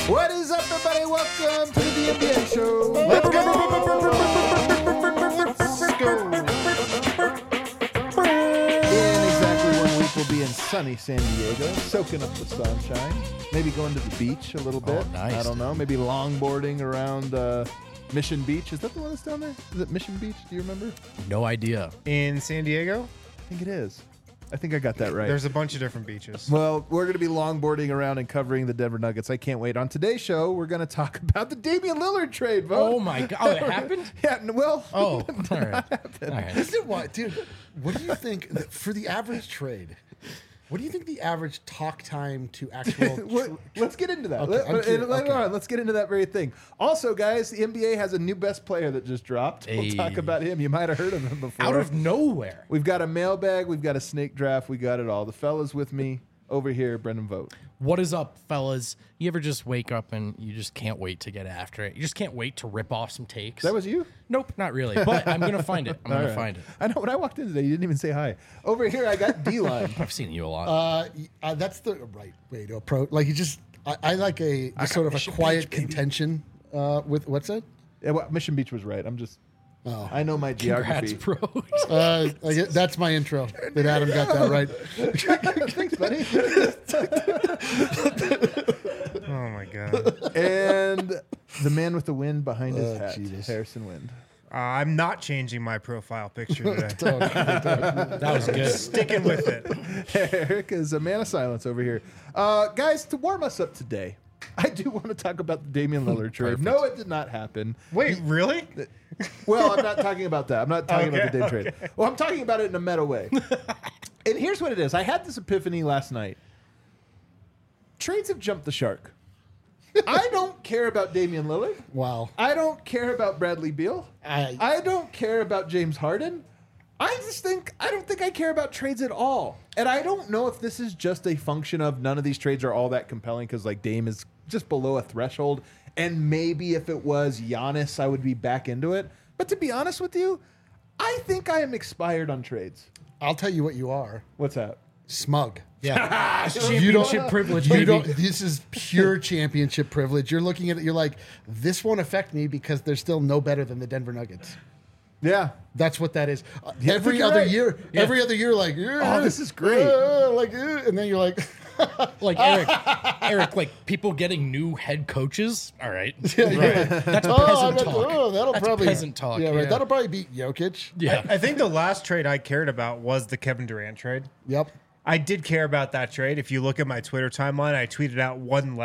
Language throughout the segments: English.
What is up, everybody? Welcome to the NBA show. Let's go. In exactly 1 week, we'll be in sunny San Diego, soaking up the sunshine. Maybe going to the beach a little bit. Oh, nice, I don't know. Maybe longboarding around Mission Beach. Is that the one that's down there? Is it Mission Beach? Do you remember? No idea. In San Diego, I think it is. I think I got that right. there's a bunch of different beaches. Well, we're going to be longboarding around and covering the Denver Nuggets. I can't wait. On today's show, we're going to talk about the Damian Lillard trade, Vogt. Oh my god! Oh, it happened. Yeah, well, Oh, all right. All right. This is what, dude. What do you think for the average trade? What do you think the average talk time to actual? let's get into that. Okay, I'm curious. Later Okay. on, let's get into that very thing. Also, guys, the NBA has a new best player that just dropped. We'll Hey. talk about him. You might have heard of him before. Out of nowhere. We've got a mailbag. We've got a snake draft. We got it all. The fellas with me over here, Brendan Vogt. What is up, fellas? You ever just wake up and you just can't wait to get after it? You just can't wait to rip off some takes. That was you? Nope, not really. But I'm gonna find it. I'm All gonna right. find it. I know. When I walked in today, you didn't even say hi. Over here, I got D-line. I've seen you a lot. That's the right way to approach. Like you just, I like a just sort of a Mission quiet Beach, baby. contention with what's that? Yeah, well, Mission Beach was right. I'm just. I know my Congrats, geography. bro. That's my intro. That Adam got that right. Thanks, buddy. Oh my god. And the man with the wind behind his hat, Jesus. Harrison Wind. I'm not changing my profile picture today. That was good. Sticking with it. Eric is a man of silence over here. Guys, to warm us up today, I do want to talk about the Damian Lillard trade. No, it did not happen. Wait, really? Well, I'm not talking about that. I'm not talking about the Dame Okay, trade. Well, I'm talking about it in a meta way. And here's what it is. I had this epiphany last night. Trades have jumped the shark. I don't care about Damian Lillard. Wow. I don't care about Bradley Beal. I don't care about James Harden. I don't think I care about trades at all. And I don't know if this is just a function of none of these trades are all that compelling because like Dame is just below a threshold. And maybe if it was Giannis, I would be back into it. But to be honest with you, I think I am expired on trades. I'll tell you what you are. What's that? Smug. Yeah. You don't- Championship privilege, You baby. don't. This is pure championship privilege. You're looking at it. You're like, this won't affect me because they're still no better than the Denver Nuggets. Yeah. That's what that is. Yeah, I Every think you're other right. year, Yeah. every other year, like, Oh, this is great. and then you're like, Like Eric, like people getting new head coaches. All right, yeah. right. That's I peasant bet- talk. that'll That's probably peasant talk. Yeah, right. That'll probably beat Jokic. Yeah. I think the last trade I cared about was the Kevin Durant trade. Yep. I did care about that trade. If you look at my Twitter timeline, I tweeted out one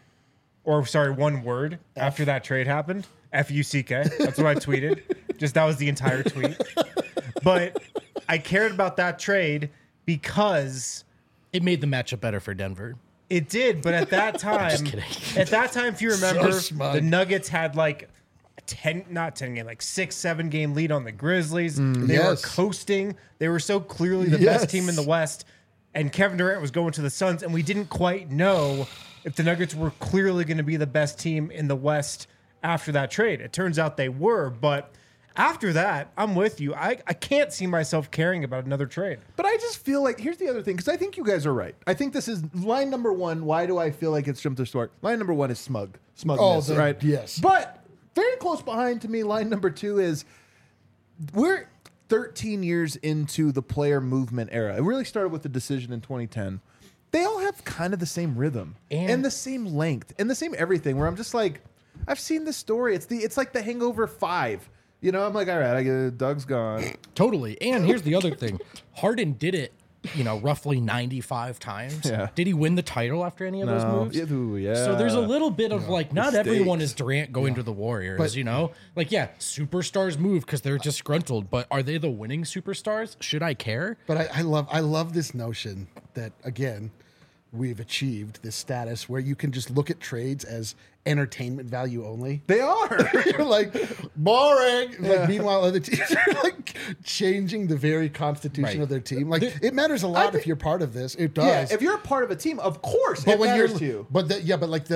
word after that trade happened. F-U-C-K. That's what I tweeted. Just that was the entire tweet. But I cared about that trade because It made the matchup better for Denver. it did. But at that time, Just kidding. at that time, if you remember, smug. the Nuggets had like not 10 game, like 6-7 game lead on the Grizzlies. They were Yes. coasting. They were so clearly the Yes. best team in the West. And Kevin Durant was going to the Suns, and we didn't quite know if the Nuggets were clearly going to be the best team in the West after that trade. It turns out they were, but after that, I'm with you. I can't see myself caring about another trade. But I just feel like here's the other thing because I think you guys are right. I think this is line number one. Why do I feel like it's jumped the shark? Line number one is smugness, right? yes. But very close behind to me, line number two is we're 13 years into the player movement era. It really started with the decision in 2010. They all have kind of the same rhythm and the same length and the same everything. Where I'm just like, I've seen this story. It's like The Hangover 5. You know, I'm like, all right, I get it. Doug's gone. Totally. And here's the other thing: Harden did it, roughly 95 times. Yeah. Did he win the title after any of those moves? Yeah, ooh, yeah. So there's a little bit of like, not Mistakes. everyone is Durant going to the Warriors, But- Like, yeah, superstars move because they're disgruntled, but are they the winning superstars? Should I care? But I love this notion that again, we've achieved this status where you can just look at trades as entertainment value only. They are. You're like boring. Like meanwhile, other teams are like changing the very constitution Right. of their team. Like it matters a lot if you're part of this. It does. Yeah, if you're a part of a team, of course, but it when matters you're to you. but like the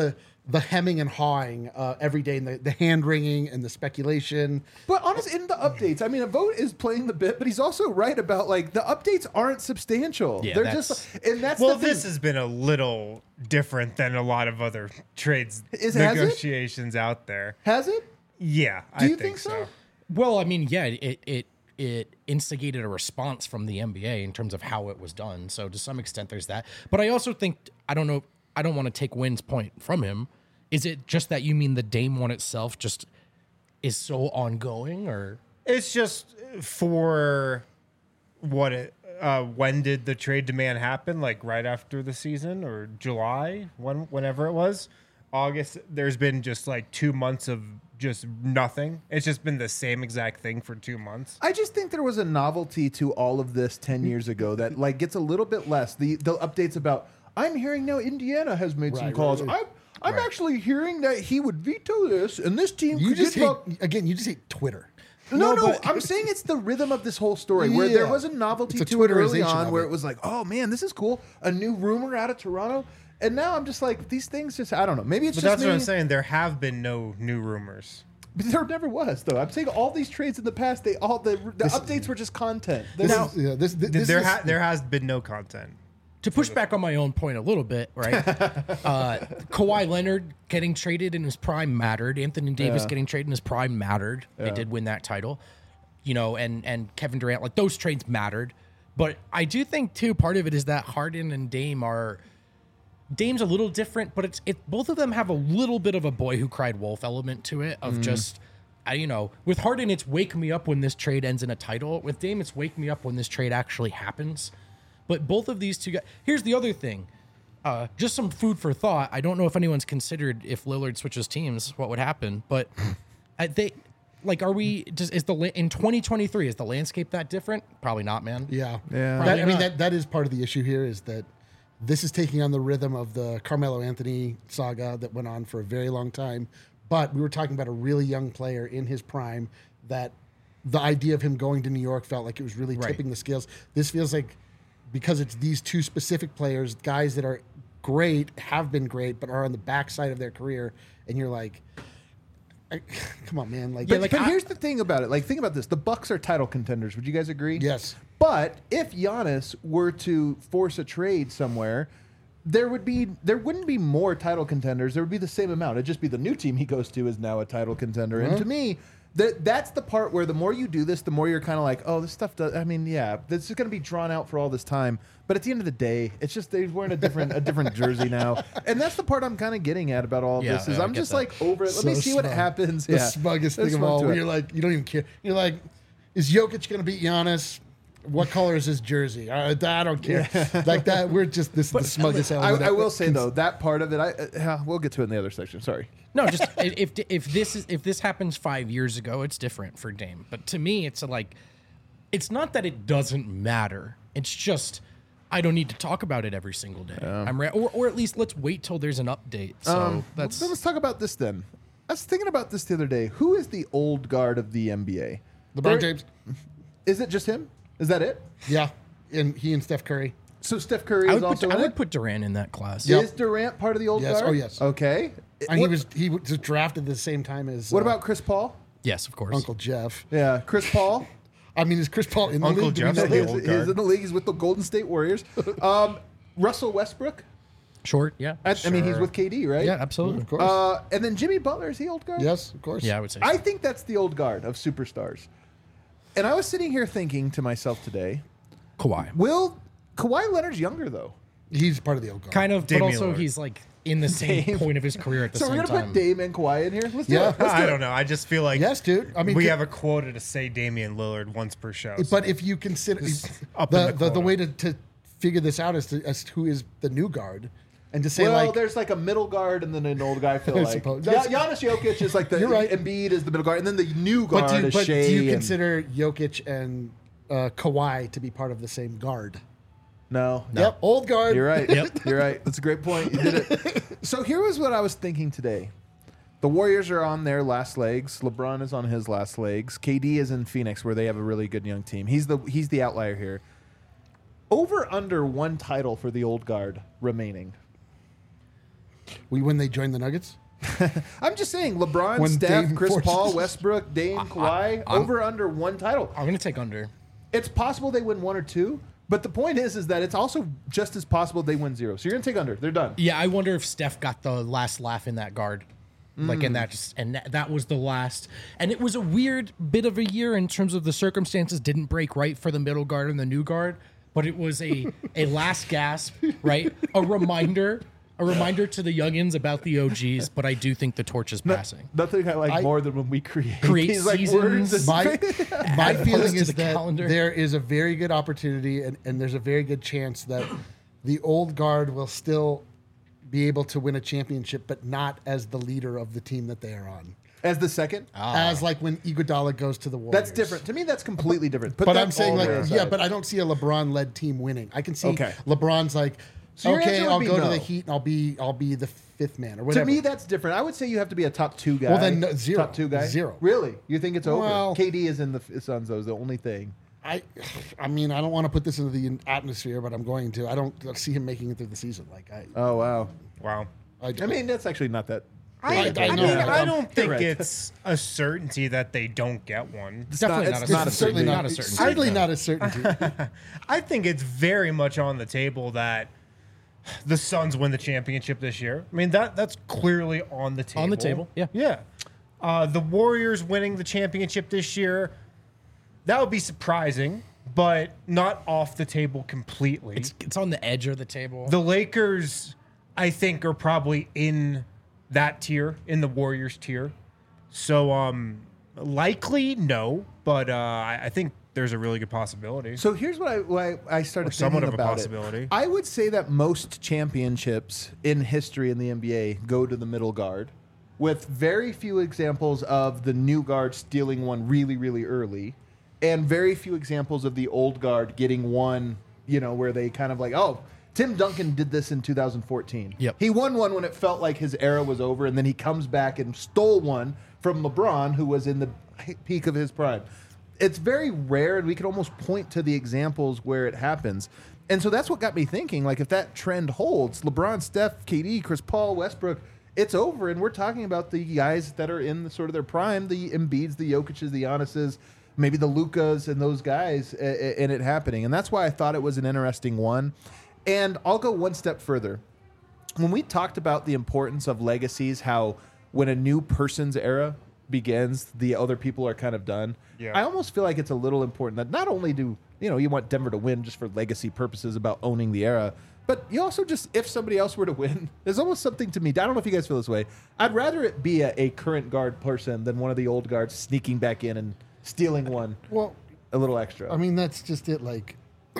the hemming and hawing every day, and the hand wringing and the speculation. But honestly, in the updates, I mean, a vote is playing the bit, but he's also right about like the updates aren't substantial. Yeah, They're that's- just, and that's Well, the thing. this has been a little different than a lot of other trades Has it? negotiations out there. Has it? Yeah, Do I you think so. Well, I mean, yeah, it instigated a response from the NBA in terms of how it was done. So to some extent, there's that. But I also think I don't want to take Wynn's point from him. Is it just that you mean the Dame one itself just is so ongoing, or It's just for what it. When did the trade demand happen? Like right after the season or July, whenever it was, August. There's been just like 2 months of just nothing. It's just been the same exact thing for 2 months. I just think there was a novelty to all of this 10 years ago that like gets a little bit less. The updates about I'm hearing now Indiana has made some Right, calls. right. I'm actually hearing that he would veto this, and this team You could just get hate, up. again. You just hate Twitter. No, but- I'm saying it's the rhythm of this whole story where there Yeah. was a novelty It's a to it early Twitterization on of where it. it was like, oh man, this is cool. A new rumor out of Toronto. And now I'm just like, these things just, I don't know. Maybe it's But just that's me. what I'm saying. There have been no new rumors. But there never was, though. I'm saying all these trades in the past, the updates were just content. This Now, is, yeah, this There is, there has been no content. to push back on my own point a little bit, right? Kawhi Leonard getting traded in his prime mattered. Anthony Davis getting traded in his prime mattered. They did win that title, and Kevin Durant, like those trades mattered. But I do think too, part of it is that Harden and Dame's a little different, but it's both of them have a little bit of a boy who cried wolf element to it of just. With Harden, it's wake me up when this trade ends in a title. With Dame, it's wake me up when this trade actually happens. But both of these two guys. Here's the other thing. Just some food for thought. I don't know if anyone's considered if Lillard switches teams, what would happen. But are we? In 2023 is the landscape that different? Probably not, man. Yeah. Probably not. That is part of the issue here is that this is taking on the rhythm of the Carmelo Anthony saga that went on for a very long time. But we were talking about a really young player in his prime that the idea of him going to New York felt like it was really tipping the scales. This feels like because it's these two specific players, guys that are great, have been great, but are on the backside of their career, and you're like, come on, man. but here's the thing about it. Like, think about this. The Bucks are title contenders. Would you guys agree? Yes. But if Giannis were to force a trade somewhere, there wouldn't be more title contenders. There would be the same amount. It'd just be the new team he goes to is now a title contender. And to me, that's the part where the more you do this, the more you're kind of like, oh, this stuff does. I mean, yeah, this is going to be drawn out for all this time. But at the end of the day, it's just they're wearing a different jersey now, and that's the part I'm kind of getting at about all of this. Is I I'm get just that. like over it. Let me So see what smug. happens. The Yeah. smuggest There's thing of fun all, to where it. you're like, you don't even care. You're like, is Jokic going to beat Giannis? What color is his jersey? I don't care. Like that, we're just the smuggest element. I will say though that part of it, we'll get to it in the other section. Sorry. No, just if this happens 5 years ago, it's different for Dame. But to me, it's it's not that it doesn't matter. It's just I don't need to talk about it every single day. Or at least let's wait till there's an update. So Let's talk about this then. I was thinking about this the other day. Who is the old guard of the NBA? LeBron James. Is it just him? Is that it? Yeah, and he and Steph Curry. So Steph Curry is also I in would it? put Durant in that class. Is Durant part of the old Yes. guard? Oh, yes. Okay. And What- he was drafted the same time as What about Chris Paul? Yes, of course. Uncle Jeff? Yeah, Chris Paul. I mean, is Chris Paul in the Uncle league? Do we Jeff's know the that? old He's guard. in the league. He's with the Golden State Warriors. Russell Westbrook. Short, yeah. I mean, he's Sure. with KD, right? Yeah, absolutely. Of course. And then Jimmy Butler is the old guard. Yes, of course. Yeah, I would say. I think that's the old guard of superstars. And I was sitting here thinking to myself today, Kawhi. Kawhi Leonard's younger though. He's part of the old guard. Kind of, Damian but also Lillard. he's like in the same Dame. point of his career at the So same we're gonna time. put Dame and Kawhi in here. Let's do Yeah. it. Let's do I it. don't know. I just feel like Yes, dude. I mean, we have a quota to say Damian Lillard once per show. But if you consider up in the the quota. way to figure this out is as to who is the new guard, and to say Well, like there's like a middle guard and then an old guy. I feel I like suppose. Giannis Jokic is like the You're right. Embiid is the middle guard, and then the new guard But is Shea. do you and- consider Jokic and Kawhi to be part of the same guard? No. Yep, old guard. You're right. Yep. You're right. That's a great point. You did it. So here was what I was thinking today. The Warriors are on their last legs. LeBron is on his last legs. KD is in Phoenix, where they have a really good young team. He's the outlier here. Over under one title for the old guard remaining. When they join the Nuggets? I'm just saying, LeBron, When Steph, Dame Chris forces- Paul, Westbrook, Dame, Kawhi, over under one title. I'm going to take under. It's possible they win one or two, but the point is that it's also just as possible they win zero. So you're going to take under. They're done. Yeah, I wonder if Steph got the last laugh in that guard. Like in that, that was the last, and it was a weird bit of a year in terms of the circumstances. Didn't break right for the middle guard and the new guard, but it was a last gasp, right? A reminder to the youngins about the OGs. But I do think the torch is passing. Nothing I like more than when we create these seasons. words. My feeling to is the that calendar. there is a very good opportunity, and there's a very good chance that the old guard will still be able to win a championship, but not as the leader of the team that they are on. As the second? As like when Iguodala goes to the Warriors. That's different. To me, that's completely different. Put But that I'm saying, all like, there yeah, aside. but I don't see a LeBron-led team winning. I can see Okay. LeBron's like, So your okay, answer would I'll be go to no. the Heat and I'll be the fifth man or To whatever. me, that's different. I would say you have to be a top two guy. Well, then, no, zero. Top two guy? Zero. Really? You think it's over? Well- KD is in the Suns, though, is the only thing. I mean, I don't want to put this into the atmosphere, but I'm going to. I don't see him making it through the season. Like Oh, wow. Wow. I mean, that's actually not that. I know. don't think Right. it's a certainty that they don't get one. It's definitely not- not, it's a not a certainty. certainty. Not a certainty. Certainly not a certainty. I think it's very much on the table that the Suns win the championship this year. I mean, that's clearly on the table. On the table, yeah. Yeah. The Warriors winning the championship this year, that would be surprising, but not off the table completely. It's on the edge of the table. The Lakers, I think, are probably in that tier, in the Warriors tier. So, likely no, but I think there's a really good possibility. So here's why I started Or somewhat thinking of a about possibility. it. I would say that most championships in history in the NBA go to the middle guard, with very few examples of the new guard stealing one really, really early, and very few examples of the old guard getting one, where they kind of like, oh, Tim Duncan did this in 2014. Yep. He won one when it felt like his era was over, and then he comes back and stole one from LeBron, who was in the peak of his prime. It's very rare, and we can almost point to the examples where it happens. And so that's what got me thinking, like, if that trend holds, LeBron, Steph, KD, Chris Paul, Westbrook, it's over, and we're talking about the guys that are in sort of their prime, the Embiids, the Jokic's, the Giannis's, maybe the Lukas and those guys, and it happening. And that's why I thought it was an interesting one. And I'll go one step further. When we talked about the importance of legacies, how when a new person's era begins, the other people are kind of done. Yeah. I almost feel like it's a little important that not only do you want Denver to win just for legacy purposes about owning the era, but you also just, if somebody else were to win, there's almost something to me. I don't know if you guys feel this way. I'd rather it be a current guard person than one of the old guards sneaking back in and stealing one Well, a little extra. I mean, that's just it. Like,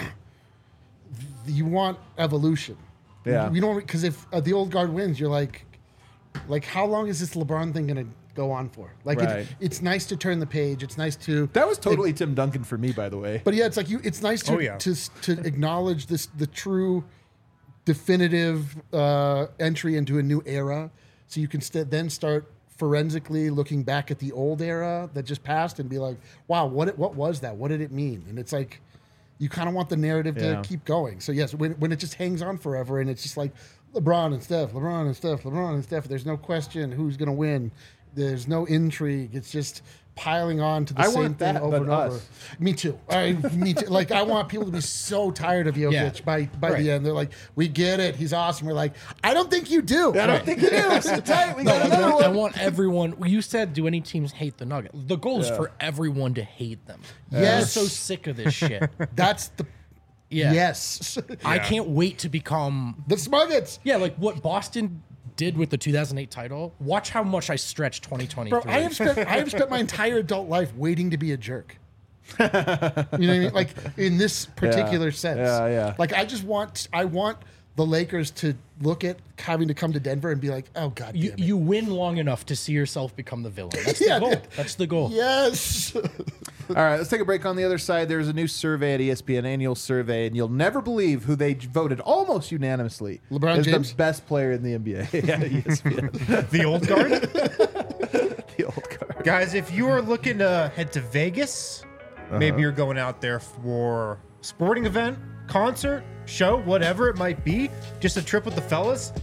you want evolution. Yeah. You don't, because if the old guard wins, you're like, how long is this LeBron thing going to go on for? Like, Right. it's nice to turn the page. It's nice to. that was totally Tim Duncan for me, by the way. But yeah, it's like it's nice to Oh, yeah. to acknowledge the true, definitive entry into a new era, so you can then start forensically looking back at the old era that just passed and be like, wow, what was that? What did it mean? And it's like, you kind of want the narrative Yeah. to keep going. So yes, when it just hangs on forever and it's just like LeBron and Steph, LeBron and Steph, LeBron and Steph, there's no question who's going to win. There's no intrigue. It's just piling on to the I same want thing that, over but and over. us. Me too. Me too. Like, I want people to be so tired of Jokic Yeah. by Right. the end. They're like, we get it. He's awesome. We're like, I don't think you do. I don't think you do. Sit tight. We got another I one. want everyone. You said, do any teams hate the Nuggets? The goal is for everyone to hate them. Yes. I'm so sick of this shit. That's the Yeah. yes. I can't wait to become. The Smuggets. Yeah, like what Boston did with the 2008 title. Watch how much I stretch 2023. Bro, I have spent my entire adult life waiting to be a jerk. You know what I mean? Like, in this particular sense. Yeah, yeah. Like, I want the Lakers to look at having to come to Denver and be like, oh god damn it. You win long enough to see yourself become the villain. That's Yeah, the goal. dude. That's the goal. Yes. All right, let's take a break. On the other side, there's a new survey at ESPN, annual survey, and you'll never believe who they voted almost unanimously LeBron as James? the best player in the NBA. Yeah, ESPN. The old guard? The old card. Guys, if you are looking to head to Vegas, maybe you're going out there for a sporting event, concert, show, whatever it might be, just a trip with the fellas,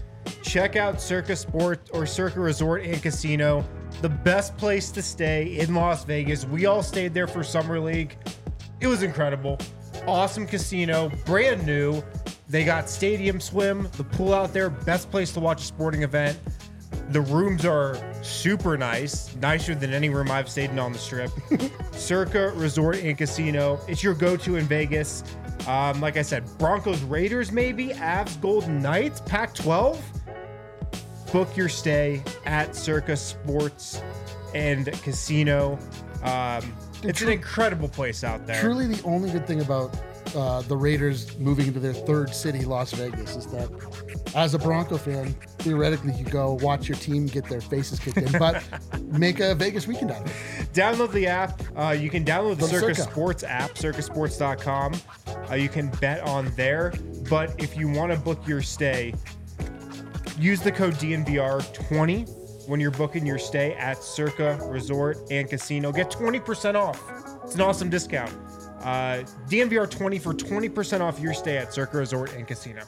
check out Circa Sports or Circa Resort and Casino. The best place to stay in Las Vegas. We all stayed there for Summer League. It was incredible. Awesome casino, brand new. They got stadium swim, the pool out there, best place to watch a sporting event. The rooms are super nice, nicer than any room I've stayed in on the Strip. Circa Resort and Casino. It's your go-to in Vegas. Like I said, Broncos, Raiders, maybe Avs, Golden Knights, Pac-12. Book your stay at Circa Sports and Casino. It's an incredible place out there. Truly, the only good thing about the Raiders moving into their third city, Las Vegas, is that as a Bronco fan, theoretically, you go watch your team get their faces kicked in, but make a Vegas weekend out of it. Download the app. You can download the Circa Circa Sports app, circasports.com. You can bet on there. But if you want to book your stay, use the code DNVR20 when you're booking your stay at Circa Resort and Casino. Get 20% off. It's an awesome discount. DNVR20 for 20% off your stay at Circa Resort and Casino.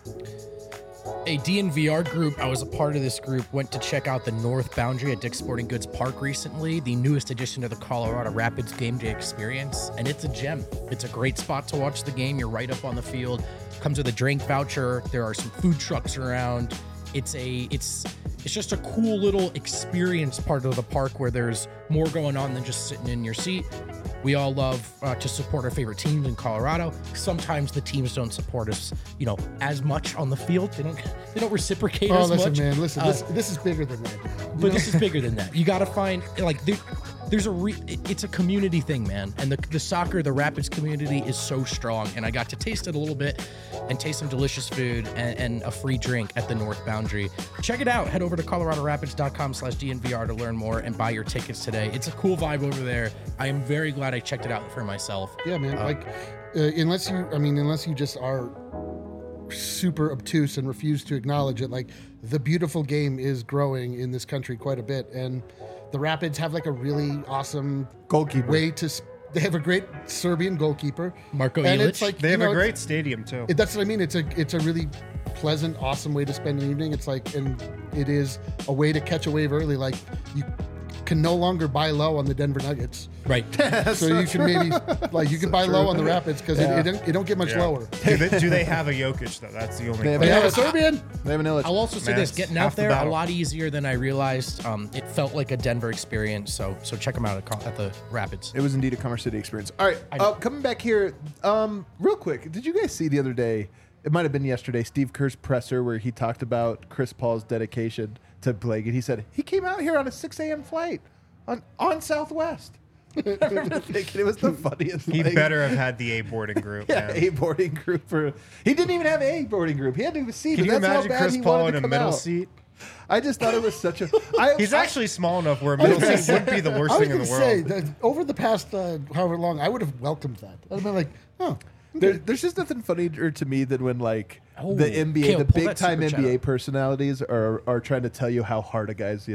A DNVR group, I was a part of this group, went to check out the North Boundary at Dick's Sporting Goods Park recently, the newest addition to the Colorado Rapids game day experience, and it's a gem. It's a great spot to watch the game. You're right up on the field. Comes with a drink voucher. There are some food trucks around. It's just a cool little experience part of the park where there's more going on than just sitting in your seat. We all love to support our favorite teams in Colorado. Sometimes the teams don't support us, as much on the field. They don't reciprocate as much. Man, listen, this is bigger than that. But this is bigger than that. You got to find it's a community thing, man. And the soccer, the Rapids community is so strong. And I got to taste it a little bit and taste some delicious food and a free drink at the North Boundary. Check it out. Head over to coloradorapids.com/DNVR to learn more and buy your tickets today. It's a cool vibe over there. I am very glad I checked it out for myself. Yeah, man. Unless you just are super obtuse and refuse to acknowledge it, the beautiful game is growing in this country quite a bit, and the Rapids have a really awesome goalkeeper. They have a great Serbian goalkeeper, Marko and Ilic. it's They have a great stadium too. That's what I mean. It's a really pleasant, awesome way to spend an evening. And it is a way to catch a wave early. You can no longer buy low on the Denver Nuggets. Right. So you can maybe you can buy low on the Rapids because it don't get much lower. Do they have a Jokic though? That's the only. They have a Serbian. They have an Illich. I'll also say this: getting out half the there a battle. lot easier than I realized. It felt like a Denver experience. So check them out at the Rapids. It was indeed a Commerce City experience. All right, coming back here, real quick. Did you guys see the other day? It might have been yesterday. Steve Kerr's presser where he talked about Chris Paul's dedication to Blake, and he said he came out here on a 6 a.m. flight on Southwest. I remember thinking it was the funniest He thing. better have had the A boarding group. Yeah, man. A boarding group he didn't even have A boarding group. He had to have a C. Can but you that's how imagine bad Chris he Paul wanted in to a come middle out. seat? I just thought it was such a. He's actually small enough where a middle seat wouldn't be the worst I was thing in going the to say world. that over the past however long, I would have welcomed that. I'd have been like, oh. There's just nothing funnier to me than when the NBA, Kale, the pull big that time super chat NBA up. personalities are trying to tell you how hard a guy's,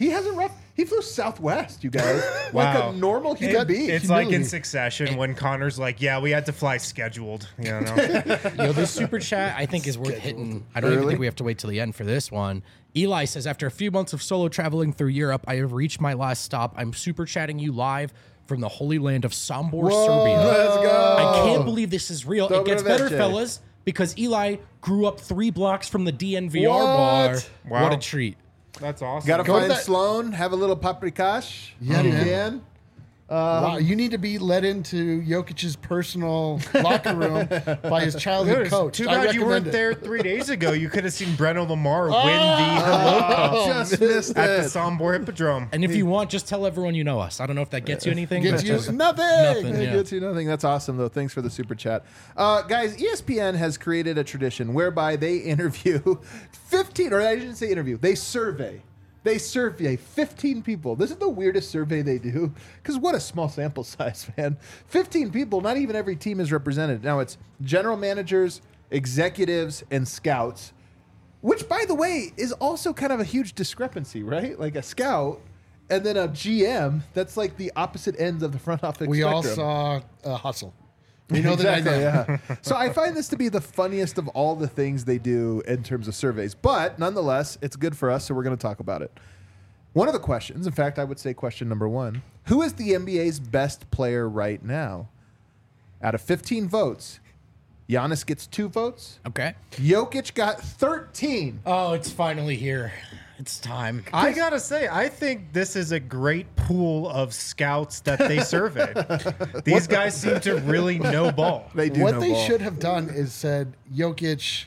he flew Southwest, you guys, like Wow. a normal human being. It's like in humility. Succession when Connor's like, "Yeah, we had to fly scheduled." This super chat I think is worth hitting. I don't even Early? think we have to wait till the end for this one. Eli says, after a few months of solo traveling through Europe, I have reached my last stop. I'm super chatting you live from the holy land of Sombor, Serbia. Let's go. I can't believe this is real. It gets better, Dobroveče. fellas, because Eli grew up 3 blocks from the DNVR What? bar. Wow. What a treat. That's awesome. Gotta Go to find that- Sloan, have a little paprikash. Yeah, if you man. can. Wow, you need to be let into Jokic's personal locker room by his childhood coach. Too I bad you weren't recommend it. there 3 days ago. You could have seen Breno Lamar win the Hello Cup Just missed at the it. Sombor Hippodrome. And if you want, just tell everyone you know us. I don't know if that gets you anything. Gets but you just- nothing. Nothing. It Yeah. gets you nothing. That's awesome, though. Thanks for the super chat. Guys, ESPN has created a tradition whereby they interview 15, or I didn't say interview, they survey 15 people. This is the weirdest survey they do, because what a small sample size, man. 15 people, not even every team is represented. Now, it's general managers, executives, and scouts, which, by the way, is also kind of a huge discrepancy, right? Like a scout and then a GM, that's like the opposite ends of the front office We all spectrum. saw Hustle. You know that Exactly, I know. yeah. So I find this to be the funniest of all the things they do in terms of surveys. But nonetheless, it's good for us, so we're going to talk about it. One of the questions, in fact, I would say question number 1, who is the NBA's best player right now? Out of 15 votes, Giannis gets 2 votes. Okay. Jokic got 13. Oh, it's finally here. It's time. I gotta say, I think this is a great pool of scouts that they surveyed. These guys seem to really know ball. They do What know they ball. should have done is said Jokic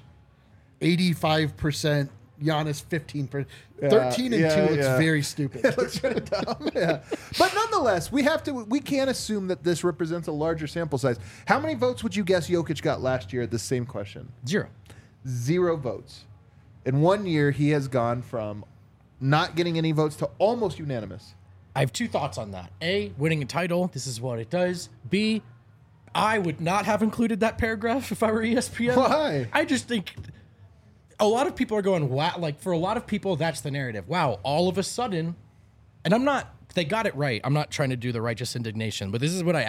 85%, Giannis 15%. 13 and 2 looks very stupid. It looks kind of dumb. Yeah. But nonetheless, we can't assume that this represents a larger sample size. How many votes would you guess Jokic got last year at this same question? 0. 0 votes. In 1 year, he has gone from not getting any votes to almost unanimous. I have 2 thoughts on that. A, winning a title. This is what it does. B, I would not have included that paragraph if I were ESPN. Why? I just think a lot of people are going, wow. Like, for a lot of people, that's the narrative. Wow, all of a sudden, and they got it right. I'm not trying to do the righteous indignation, but this is what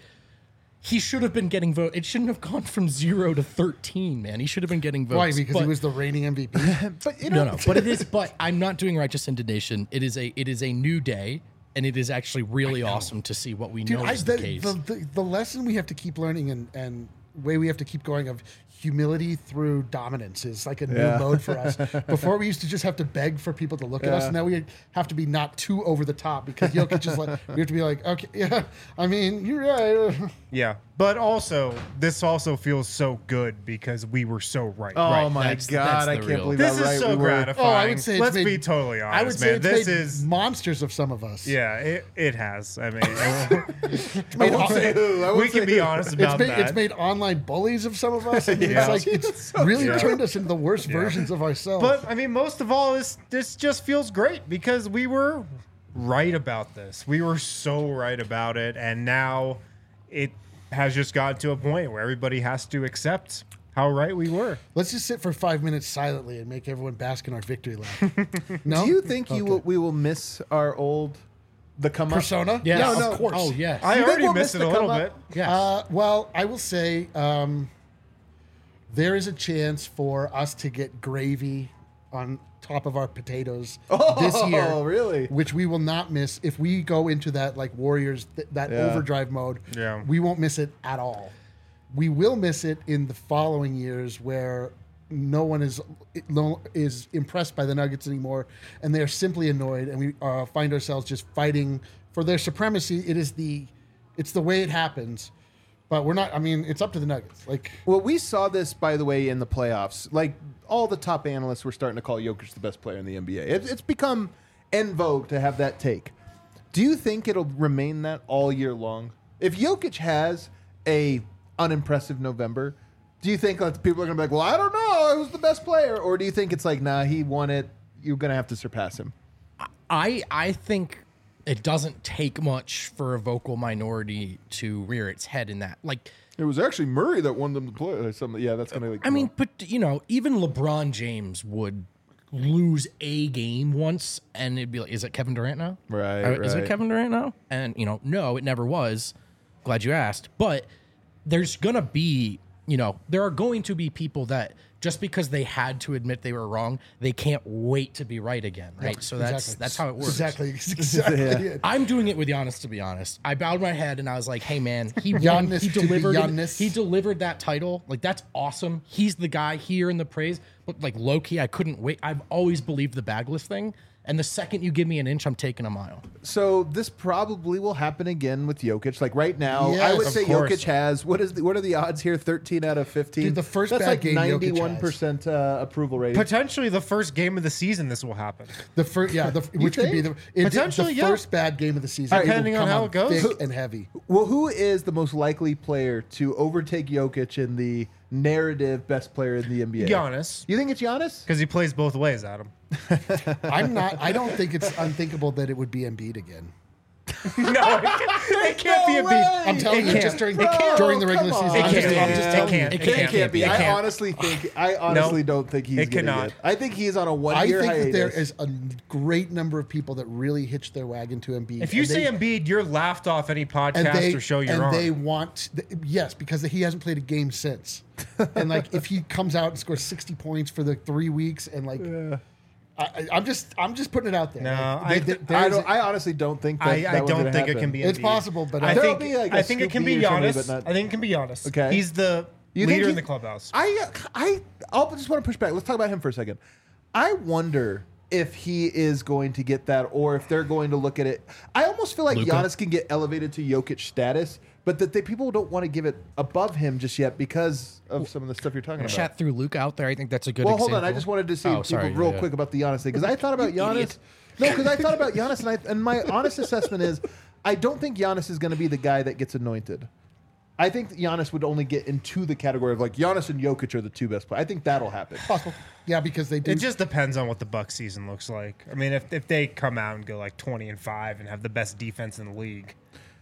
he should have been getting votes. It shouldn't have gone from 0 to 13, man. He should have been getting votes. Why? Because he was the reigning MVP? But you know, No. But it is. But I'm not doing righteous indignation. It is a new day, and it is actually really awesome to see what we know is the case. The lesson we have to keep learning and way we have to keep going of humility through dominance is like a new mode for us. Before we used to just have to beg for people to look at us. Now we have to be not too over the top because Jokic is like, we have to be like, okay, yeah, I mean, you're right. Yeah, but also this also feels so good because we were so right. oh right. my That's God, I the can't real- believe This how is right so we were. gratifying. Oh, I would say it's let's made- be totally honest, I would say man. it's This made is monsters of some of us. yeah, it has. I mean, Made won't say who. I won't we say can be who. honest about that. It's made online bullies of some of us. I mean, Yeah. it's like it's really turned us into the worst versions of ourselves. But I mean, most of all, this just feels great because we were right about this. We were so right about it, and now it has just gotten to a point where everybody has to accept how right we were. let's just sit for 5 minutes silently and make everyone bask in our victory lap. No, Do you think we will miss our the come up persona? Yes. Yeah, No, of course. Oh, yes. I think already we'll missed miss it a the little come bit. up? Yes. Well, I will say there is a chance for us to get gravy on top of our potatoes this year. Oh, really? Which we will not miss if we go into that like Warriors, that overdrive mode. Yeah. We won't miss it at all. We will miss it in the following years where no one is impressed by the Nuggets anymore, and they're simply annoyed, and we find ourselves just fighting for their supremacy. It's the way it happens. But we're not. I mean, it's up to the Nuggets. Like, Well, we saw this, by the way, in the playoffs. Like, all the top analysts were starting to call Jokic the best player in the NBA. It's become en vogue to have that take. Do you think it'll remain that all year long? If Jokic has a unimpressive November, do you think like, people are going to be like, well, I don't know, who's the best player? Or do you think it's like, nah, he won it, you're going to have to surpass him? I think it doesn't take much for a vocal minority to rear its head in that. Like, It was actually Murray that won them the play. Or something. Yeah, that's going to like. I mean, but even LeBron James would lose a game once, and it'd be like, is it Kevin Durant now? Right, Is it right. Kevin Durant now? And no, it never was. Glad you asked. But there's gonna be, there are going to be people that just because they had to admit they were wrong, they can't wait to be right again, right? So that's how it works. Exactly. it. I'm doing it with Giannis, to be honest. I bowed my head and I was like, "Hey, man, he won. Giannis He to be delivered. Giannis. He delivered that title. Like that's awesome. He's the guy here in the praise. But like low key, I couldn't wait. I've always believed the bagless thing. And the second you give me an inch, I'm taking a mile. So this probably will happen again with Jokic. Like right now, Yes, I would of say course. Jokic has what are the odds here? 13 out of 15. Dude, the first that's bad like game Jokic 91% approval rating. Potentially the first game of the season, this will happen. The first, which could be the Potentially, the yeah. first bad game of the season. All right, It will depending on come how it goes. thick and heavy. Well, who is the most likely player to overtake Jokic in the narrative best player in the NBA? Giannis, You think it's Giannis? because he plays both ways, Adam. I don't think it's unthinkable that it would be Embiid again. No, it can't be Embiid. I'm telling you, just during the regular season. I'm just telling you. It can't be. I honestly don't think he's going to get. I think he's on a 1-year hiatus. I think that there is a great number of people that really hitch their wagon to Embiid. If you say Embiid, you're laughed off any podcast or show you're on. And they want, yes, because he hasn't played a game since. And like, if he comes out and scores 60 points for the 3 weeks, and like, I'm just putting it out there. No, I honestly don't think that. I don't think it can be Embiid. It's possible, but I think it can be Giannis. I think it can be Giannis. Okay, he's the leader in the clubhouse. I'll just want to push back. Let's talk about him for a second. I wonder if he is going to get that, or if they're going to look at it. I almost feel like Luka? Giannis can get elevated to Jokic status, but that people don't want to give it above him just yet because of some of the stuff you're talking about. Chat through Luke out there. I think that's a good example. Hold on. I just wanted to see real quick about the Giannis thing, because I thought about Giannis. No, because I thought about Giannis, and my honest assessment is I don't think Giannis is going to be the guy that gets anointed. I think Giannis would only get into the category of like Giannis and Jokic are the two best players. I think that'll happen. Possible. Yeah, because they do. It just depends on what the Bucks season looks like. I mean, if they come out and go like 20-5 and have the best defense in the league,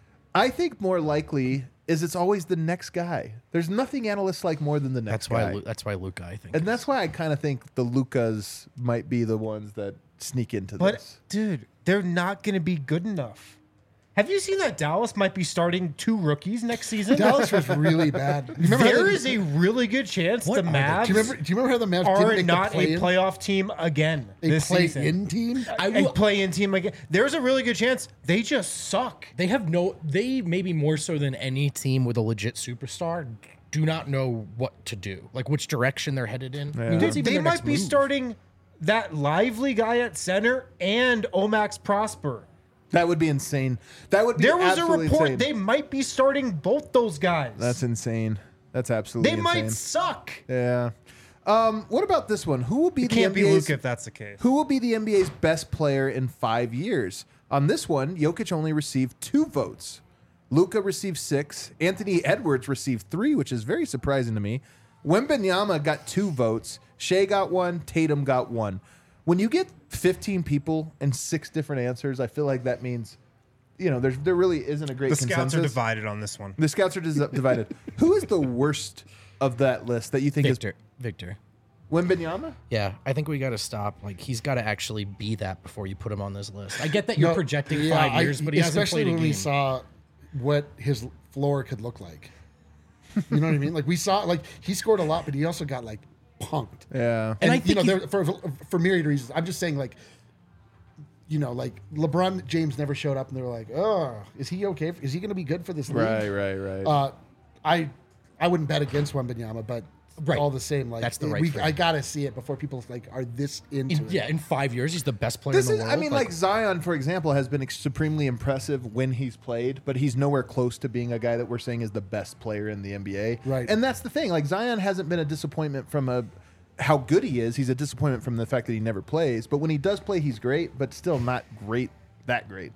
I think more likely is it's always the next guy. There's nothing analysts like more than the next guy. That's why Luka, I think. And that's why I kind of think the Lukas might be the ones that sneak into but, this. Dude, they're not going to be good enough. Have you seen that Dallas might be starting 2 rookies next season? Dallas was really bad. There is a really good chance the Mavs. Do you remember how the Mavs are not a playoff team again this season? Play-in team? A play-in team again. There's a really good chance they just suck. They maybe more so than any team with a legit superstar do not know what to do, like which direction they're headed in. Yeah. I mean, that's even They their might next be move. starting that lively guy at center and Omax Prosper. That would be insane. That would be There was a absolutely report insane. they might be starting both those guys. That's insane. That's absolutely They insane. might suck. Yeah. What about this one? Who will be It the can't be NBA's Luka if that's the case. Who will be the NBA's best player in 5 years? On this one, Jokic only received 2 votes. Luka received 6. Anthony Edwards received 3, which is very surprising to me. Wembanyama got 2 votes. Shea got 1. Tatum got 1. When you get 15 people and 6 different answers, I feel like that means, there really isn't a great consensus. The scouts are divided on this one. The scouts are divided. Who is the worst of that list that you think is Victor? Wembanyama? Yeah, I think we got to stop. Like, he's got to actually be that before you put him on this list. I get that you're projecting 5 years, but he hasn't played a game. Especially when we saw what his floor could look like. You know what I mean? Like, we saw, like, he scored a lot, but he also got, like, punked. Yeah. And I think for myriad reasons. I'm just saying, like, like LeBron James never showed up, and they were like, "Oh, is he okay? Is he going to be good for this league?" Right. I wouldn't bet against Wembanyama, but all the same, like that's the right thing. I gotta see it before people like are this into it. Yeah, in 5 years, he's the best player in the world. I mean, like Zion, for example, has been supremely impressive when he's played, but he's nowhere close to being a guy that we're saying is the best player in the NBA. Right. And that's the thing. Like, Zion hasn't been a disappointment from how good he is. He's a disappointment from the fact that he never plays. But when he does play, he's great, but still not that great.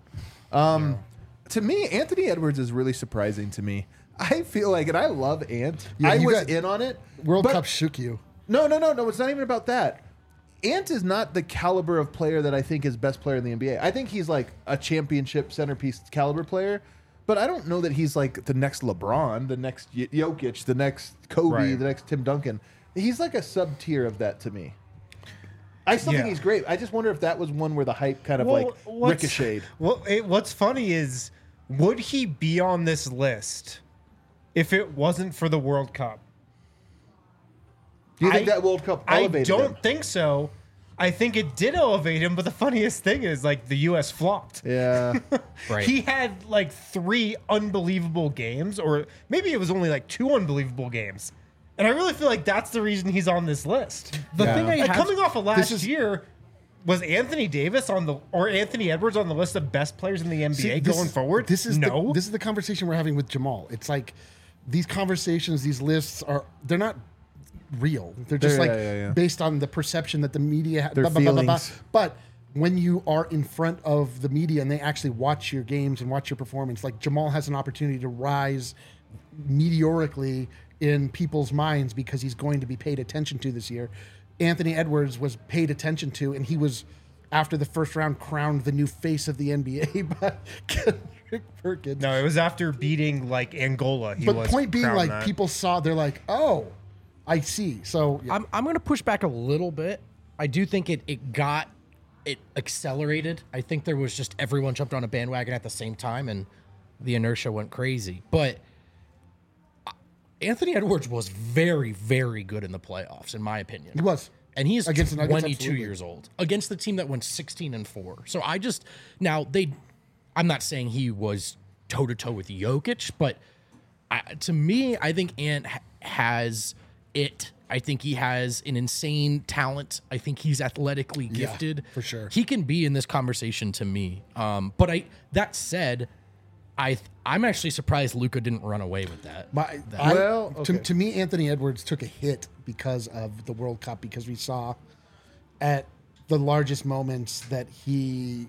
To me, Anthony Edwards is really surprising to me. I feel like, and I love Ant. Yeah, I was in on it. World Cup shook you. No. It's not even about that. Ant is not the caliber of player that I think is best player in the NBA. I think he's like a championship centerpiece caliber player, but I don't know that he's like the next LeBron, the next Jokic, the next Kobe, the next Tim Duncan. He's like a sub tier of that to me. I still think he's great. I just wonder if that was one where the hype kind of ricocheted. What's funny is, would he be on this list if it wasn't for the World Cup? Do you think that World Cup elevated him? I don't think so. I think it did elevate him, but the funniest thing is, like, the U.S. flopped. Yeah. Right. He had, like, 3 unbelievable games, or maybe it was only, like, 2 unbelievable games. And I really feel like that's the reason he's on this list. The thing I have, coming off of last year, was Anthony Davis or Anthony Edwards on the list of best players in the NBA going forward? This is the conversation we're having with Jamal. It's like these conversations, these lists they're not real. They're just based on the perception that the media Their feelings. But when you are in front of the media and they actually watch your games and watch your performance, like Jamal has an opportunity to rise meteorically in people's minds because he's going to be paid attention to this year. Anthony Edwards was paid attention to, and he was after the first round crowned the new face of the NBA by Kendrick Perkins. No, it was after beating like Angola. But point being, crowned like that. people saw, they're like, oh, I see. So yeah. I'm going to push back a little bit. I do think it accelerated. I think there was just everyone jumped on a bandwagon at the same time and the inertia went crazy. But Anthony Edwards was very, very good in the playoffs, in my opinion. He was. And he's Against the Nuggets, 22 absolutely. years old against the team that went 16-4. So I'm not saying he was toe to toe with Jokic, but to me, I think Ant has it. I think he has an insane talent. I think he's athletically gifted. for sure. He can be in this conversation to me. But that said, I'm actually surprised Luka didn't run away with that. To me, Anthony Edwards took a hit because of the World Cup, because we saw at the largest moments that he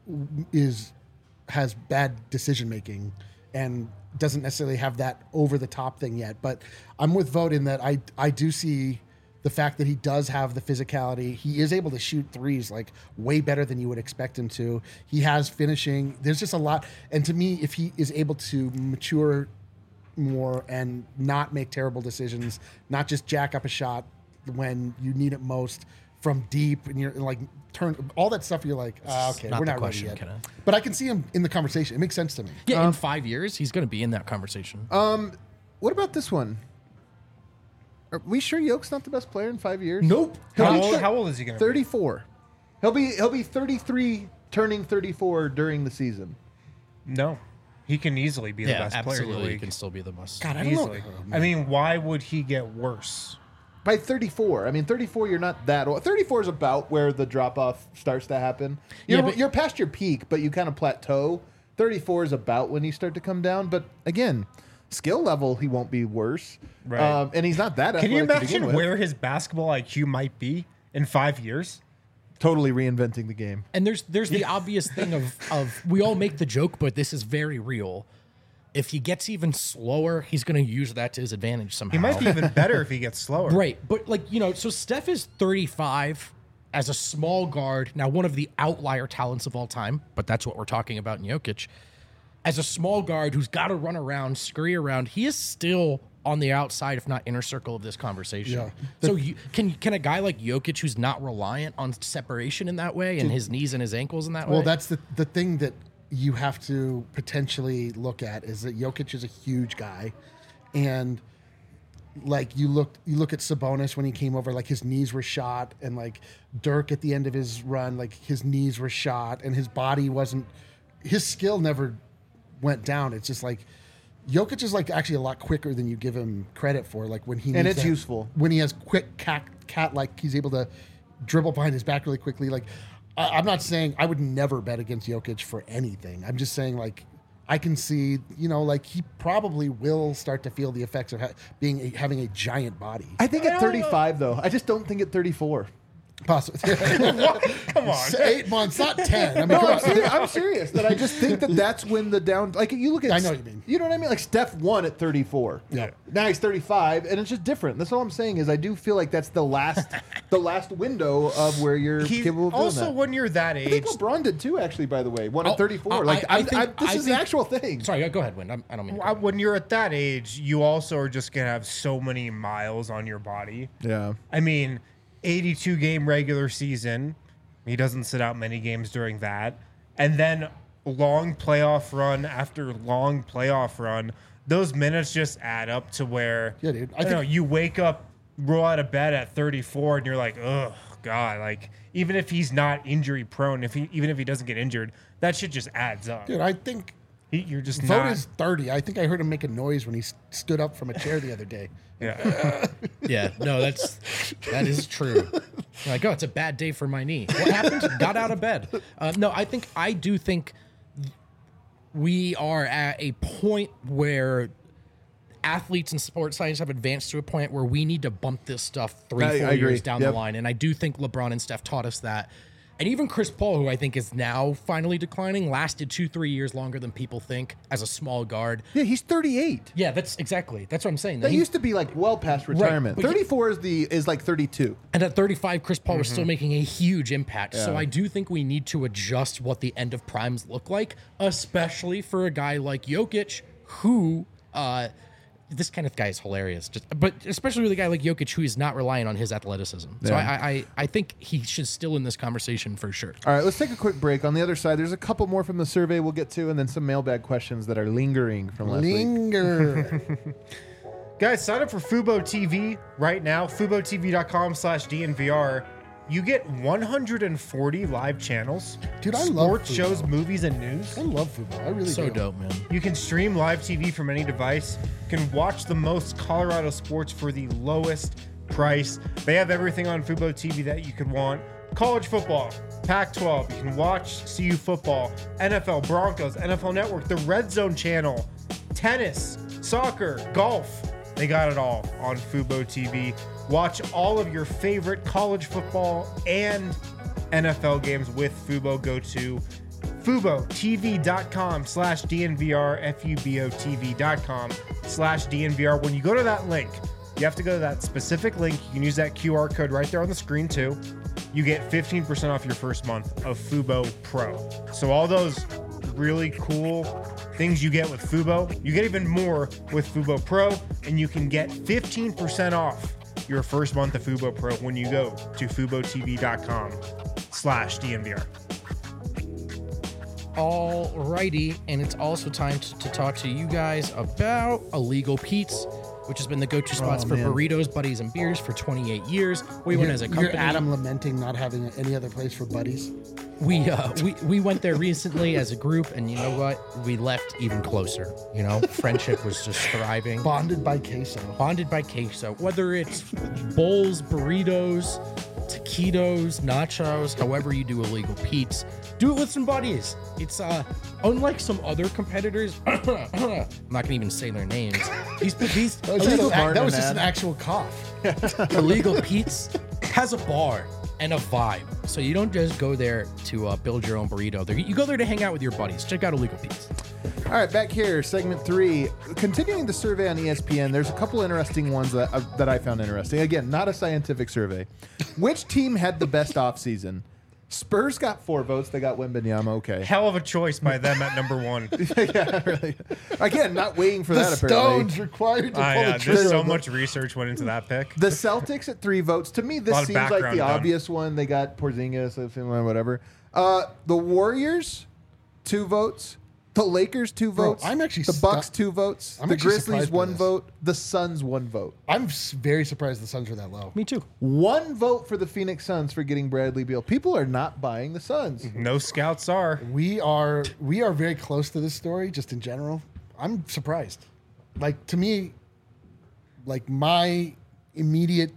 has bad decision making and doesn't necessarily have that over the top thing yet. But I'm with Vogt in that I do see the fact that he does have the physicality. He is able to shoot threes like way better than you would expect him to. He has finishing. There's just a lot. And to me, if he is able to mature more and not make terrible decisions, not just jack up a shot when you need it most from deep, and you're like turn all that stuff, you're like, okay, we're not ready yet. But I can see him in the conversation. It makes sense to me. Yeah, in 5 years, he's going to be in that conversation. What about this one? Are we sure Yoke's not the best player in 5 years? Nope. How old is he going to be? 34. He'll be 33, turning 34 during the season. No. He can easily be the best player in the absolutely. He league. can still be the best. God, I don't Easily. know. I mean, why would he get worse? By 34. I mean, 34, you're not that old. 34 is about where the drop-off starts to happen. You're past your peak, but you kind of plateau. 34 is about when you start to come down. But again, skill level, he won't be worse. Right. And he's not that Can you athletic to begin imagine with. where his basketball IQ might be in 5 years? Totally reinventing the game. And there's the obvious thing of we all make the joke, but this is very real. If he gets even slower, he's going to use that to his advantage somehow. He might be even better if he gets slower. Right. But so Steph is 35 as a small guard. Now, one of the outlier talents of all time, but that's what we're talking about in Jokic. As a small guard who's got to run around, scurry around, he is still on the outside, if not inner circle of this conversation. Yeah. So can a guy like Jokic, who's not reliant on separation in that way and his knees and his ankles in that way? Well, that's the thing that you have to potentially look at is that Jokic is a huge guy, and like you look at Sabonis when he came over, like his knees were shot, and like Dirk at the end of his run, like his knees were shot, and his skill never went down. It's just like Jokic is like actually a lot quicker than you give him credit for. Like when he And needs it's useful. when he has quick cat like he's able to dribble behind his back really quickly. Like I'm not saying I would never bet against Jokic for anything. I'm just saying like I can see, like he probably will start to feel the effects of having a giant body. I think at 35, though. I just don't think at 34. Possibly. Come on. 8 months, not 10. I mean, No, come on. I'm serious. That I just think that's when the down. Like you look at. I know what you mean. You know what I mean? Like Steph won at 34. Yeah. Now he's 35, and it's just different. That's all I'm saying is I do feel like that's the last window of where you're capable of doing Also, that. when you're that I age, think LeBron did too. Actually, by the way, won Oh, at 34. This is an actual thing. Sorry, go ahead, Win. I don't mean to when you're at that age, you also are just going to have so many miles on your body. Yeah. I mean, 82 game regular season. He doesn't sit out many games during that. And then long playoff run after long playoff run. Those minutes just add up to where you wake up, roll out of bed at 34 and you're like, oh God, like even if he's not injury prone, even if he doesn't get injured, that shit just adds up. Dude, I think You're just Vogt not. is 30. I think I heard him make a noise when he stood up from a chair the other day. Yeah. Yeah, no, that is true. You're like, oh, it's a bad day for my knee. What happened? Got out of bed. No, I do think we are at a point where athletes and sports science have advanced to a point where we need to bump this stuff 3-4 I agree. years down the line. And I do think LeBron and Steph taught us that. And even Chris Paul, who I think is now finally declining, lasted 2-3 years longer than people think as a small guard. Yeah, he's 38. Yeah, that's what I'm saying. That used to be like well past retirement. Right, 34 is like 32. And at 35, Chris Paul was still making a huge impact. So I do think we need to adjust what the end of primes look like, especially for a guy like Jokic, who this kind of guy is hilarious. But especially with a guy like Jokic, who is not relying on his athleticism. So I think he should still in this conversation for sure. All right, let's take a quick break. On the other side, there's a couple more from the survey we'll get to, and then some mailbag questions that are lingering from last week. Guys, sign up for Fubo TV right now. FuboTV.com/DNVR. You get 140 live channels. Dude, I love sports Fubo. shows, movies, and news. I love Fubo. I really So do. dope, man. You can stream live TV from any device. You can watch the most Colorado sports for the lowest price. They have everything on Fubo TV that you could want. College football, Pac-12. You can watch CU football, NFL, Broncos, NFL Network, the Red Zone channel, tennis, soccer, golf. They got it all on Fubo TV. Watch all of your favorite college football and NFL games with Fubo. Go to FuboTV.com/DNVR, FuboTV.com/DNVR. When you go to that link, you have to go to that specific link. You can use that QR code right there on the screen too. You get 15% off your first month of Fubo Pro. So all those really cool things you get with Fubo, you get even more with Fubo Pro, and you can get 15% off your first month of Fubo Pro when you go to FuboTV.com/DNVR. Alrighty, and it's also time to talk to you guys about Illegal Pete's, which has been the go-to spots for burritos, buddies, and beers for 28 years. We went as a company. You're Adam lamenting not having any other place for buddies. We went there recently as a group, and you know what? We left even closer. You know, friendship was just thriving. Bonded by queso. Bonded by queso. Whether it's bowls, burritos, taquitos, nachos, however you do Illegal Pete's, do it with some buddies. It's unlike some other competitors. I'm not gonna even say their names. That was just an actual cough. Illegal Pete's has a bar and a vibe. So you don't just go there to build your own burrito. You go there to hang out with your buddies. Check out Illegal Pete's. All right, back here, segment 3. Continuing the survey on ESPN, there's a couple interesting ones that I found interesting. Again, not a scientific survey. Which team had the best offseason? Spurs got 4 votes. They got Wembanyama. Okay. Hell of a choice by them at number 1. Yeah, really. Again, not waiting for The that, apparently. Stones required to pull the trigger. There's so much research went into that pick. The Celtics at 3 votes. To me, this seems like the obvious one. They got Porzingis, whatever. The Warriors, 2 votes. The Lakers, 2 votes. I'm actually the Bucks, 2 votes. I'm the actually Grizzlies, surprised by 1 this. vote. The Suns, 1 vote. I'm very surprised the Suns were that low. Me too. 1 vote for the Phoenix Suns for getting Bradley Beal. People are not buying the Suns. No scouts are. We are very close to this story, just in general. I'm surprised. Like, to me, like, my immediate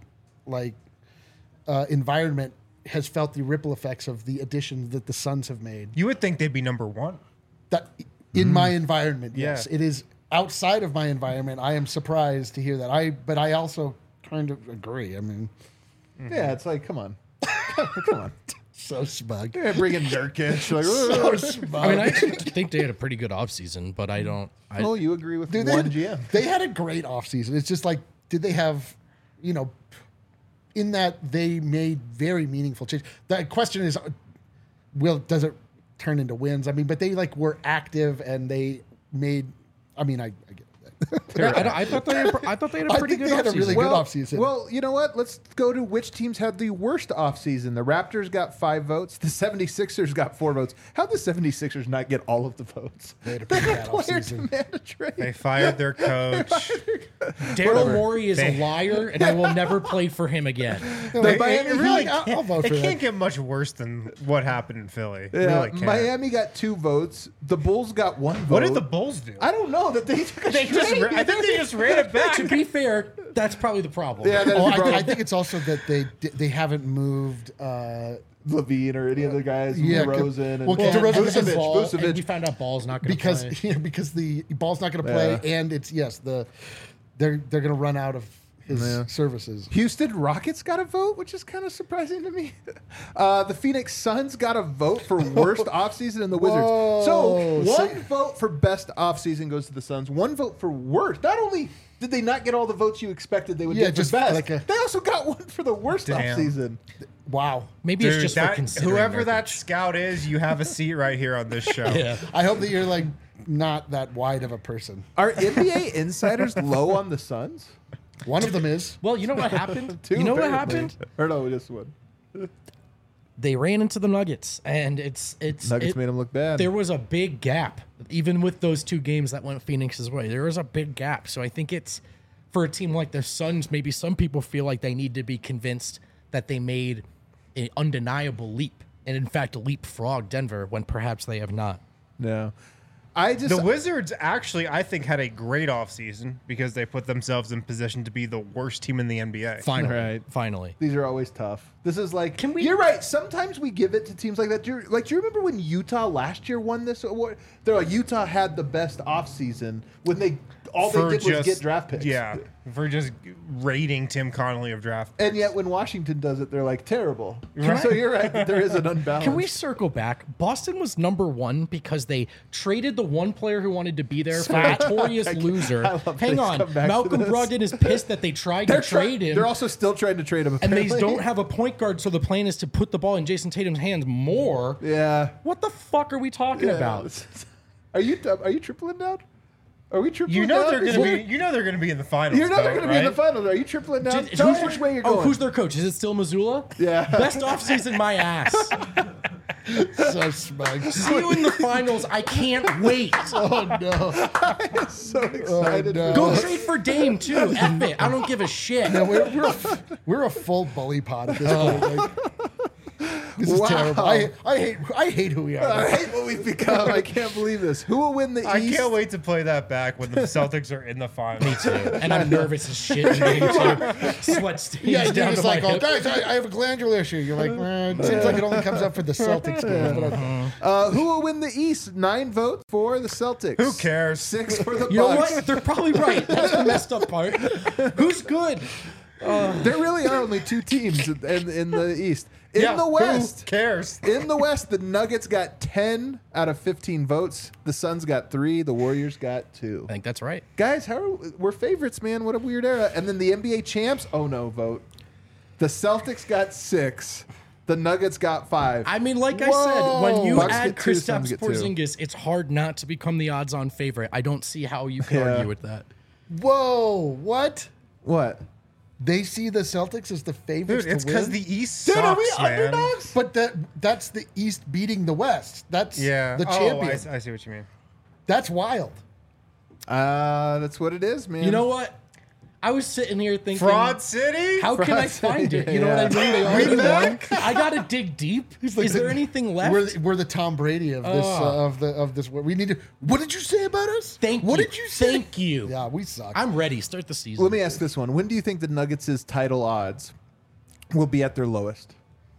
environment has felt the ripple effects of the additions that the Suns have made. You would think they'd be number 1. That in my environment, yes. Yeah. It is outside of my environment. I am surprised to hear that. But I also kind of agree. I mean, Yeah, it's like, come on. Come on. so smug. Yeah, bring in Nurkic. Like, So smug. I mean, I actually think they had a pretty good offseason, but I don't. oh, you agree with Dude, one GM. They had a great offseason. It's just like, did they have, in that they made very meaningful change. The question is, does it turn into wins? I mean, but they were active and they made. I mean, I get that. I thought they had a pretty good they had a offseason. really good offseason. Well, you know what? Let's go to which teams had the worst offseason. The Raptors got 5 votes. The 76ers got 4 votes. How'd the 76ers not get all of the votes? They had a pretty bad Player offseason. demand a trade. They fired their coach. Daryl Morey is a liar, and I will never play for him again. The Miami It really Heat- I'll vote it for can't that. get much worse than what happened in Philly. It Yeah, really can't. Miami got 2 votes. The Bulls got 1 vote. What did the Bulls do? I don't know that they took a They just straight. I think they just ran it back. To be fair, that's probably the problem. Yeah, that is Oh, the problem. I think it's also that they haven't moved. Levine or any of the guys, Yeah, DeRozan, and well, DeRozan Vucevic. doesn't Ball, and we Vucevic. found out Ball's not going to play. Because the ball's not going to play, Yeah. and it's they're going to run out of his services. Houston Rockets got a vote, which is kind of surprising to me. The Phoenix Suns got a vote for worst offseason in the Wizards. So one vote for best offseason goes to the Suns. One vote for worst. Not only did they not get all the votes you expected they would get for best, they also got one for the worst offseason. Wow. Maybe it's just for considering whoever that scout is, you have a seat right here on this show. Yeah. I hope that you're like not that wide of a person. Are NBA insiders low on the Suns? One of them is. Well, you know what happened? Two, you know what apparently. happened? Or no, just one. They ran into the Nuggets, and Nuggets made them look bad. There was a big gap, even with those two games that went Phoenix's way. There was a big gap. So I think it's for a team like the Suns. Maybe some people feel like they need to be convinced that they made an undeniable leap, and in fact, leapfrog Denver when perhaps they have not. No. The Wizards actually, I think, had a great offseason because they put themselves in position to be the worst team in the NBA. Finally. These are always tough. This is like, you're right. Sometimes we give it to teams like that. Do you remember when Utah last year won this award? They're like, Utah had the best offseason when they did was get draft picks. Yeah, for just raiding Tim Connolly of draft picks. And yet when Washington does it, they're like terrible. So you're right. There is an unbalance. Can we circle back? Boston was number one because they traded the one player who wanted to be there for a notorious loser. Hang on. Malcolm Brogdon is pissed that they tried to trade him. They're also still trying to trade him, apparently. And they don't have a point guard, so the plan is to put the ball in Jason Tatum's hands more. Yeah. What the fuck are we talking about? Are you tripling down? Are we tripling You know down? they're going to be in the finals. You know they're going to be in the finals. Are you tripling down? Tell us which way you're going. Who's their coach? Is it still Missoula? Yeah. Best offseason, my ass. So smug. See you in the finals. I can't wait. Oh, no. I'm so excited. no. Go trade for Dame, too. F it. I don't give a shit. No, we're a full bully pod at this point. Like, this is terrible. I hate who we are. I hate what we've become. I can't believe this. Who will win the East? I can't wait to play that back when the Celtics are in the finals. Me too. And I'm nervous as shit in game two. Sweat stains Yeah, down you're to just my like, oh, hip. guys, I have a glandular issue. You're like, it seems like it only comes up for the Celtics games. But Who will win the East? 9 votes for the Celtics. Who cares? 6 for the Bucks. You know what? They're probably right. That's the messed up part. Who's good? There really are only 2 teams in the East. In the West. Who cares? In the West, the Nuggets got 10 out of 15 votes. The Suns got 3. The Warriors got 2. I think that's right. Guys, we're favorites, man. What a weird era. And then the NBA champs, oh no, vote. The Celtics got 6. The Nuggets got 5. I mean, like I said, when you Bucks add get 2, Suns Kristaps get 2. Porzingis, it's hard not to become the odds-on favorite. I don't see how you can argue with that. whoa, what? What? They see the Celtics as the favorites Dude, it's to win? because the East sucks, Dude, are we man. underdogs? But that's the East beating the West. That's the champion. I see what you mean. That's wild. That's what it is, man. You know what? I was sitting here thinking, Fraud City? how can I find it? You know what I mean? They already won. I got to dig deep. Is there anything left? We're the Tom Brady of this of this. We need to. What did you say about us? What did you say? Thank you. Yeah, we suck. I'm ready. Start the season. Let me ask this one. When do you think the Nuggets' title odds will be at their lowest?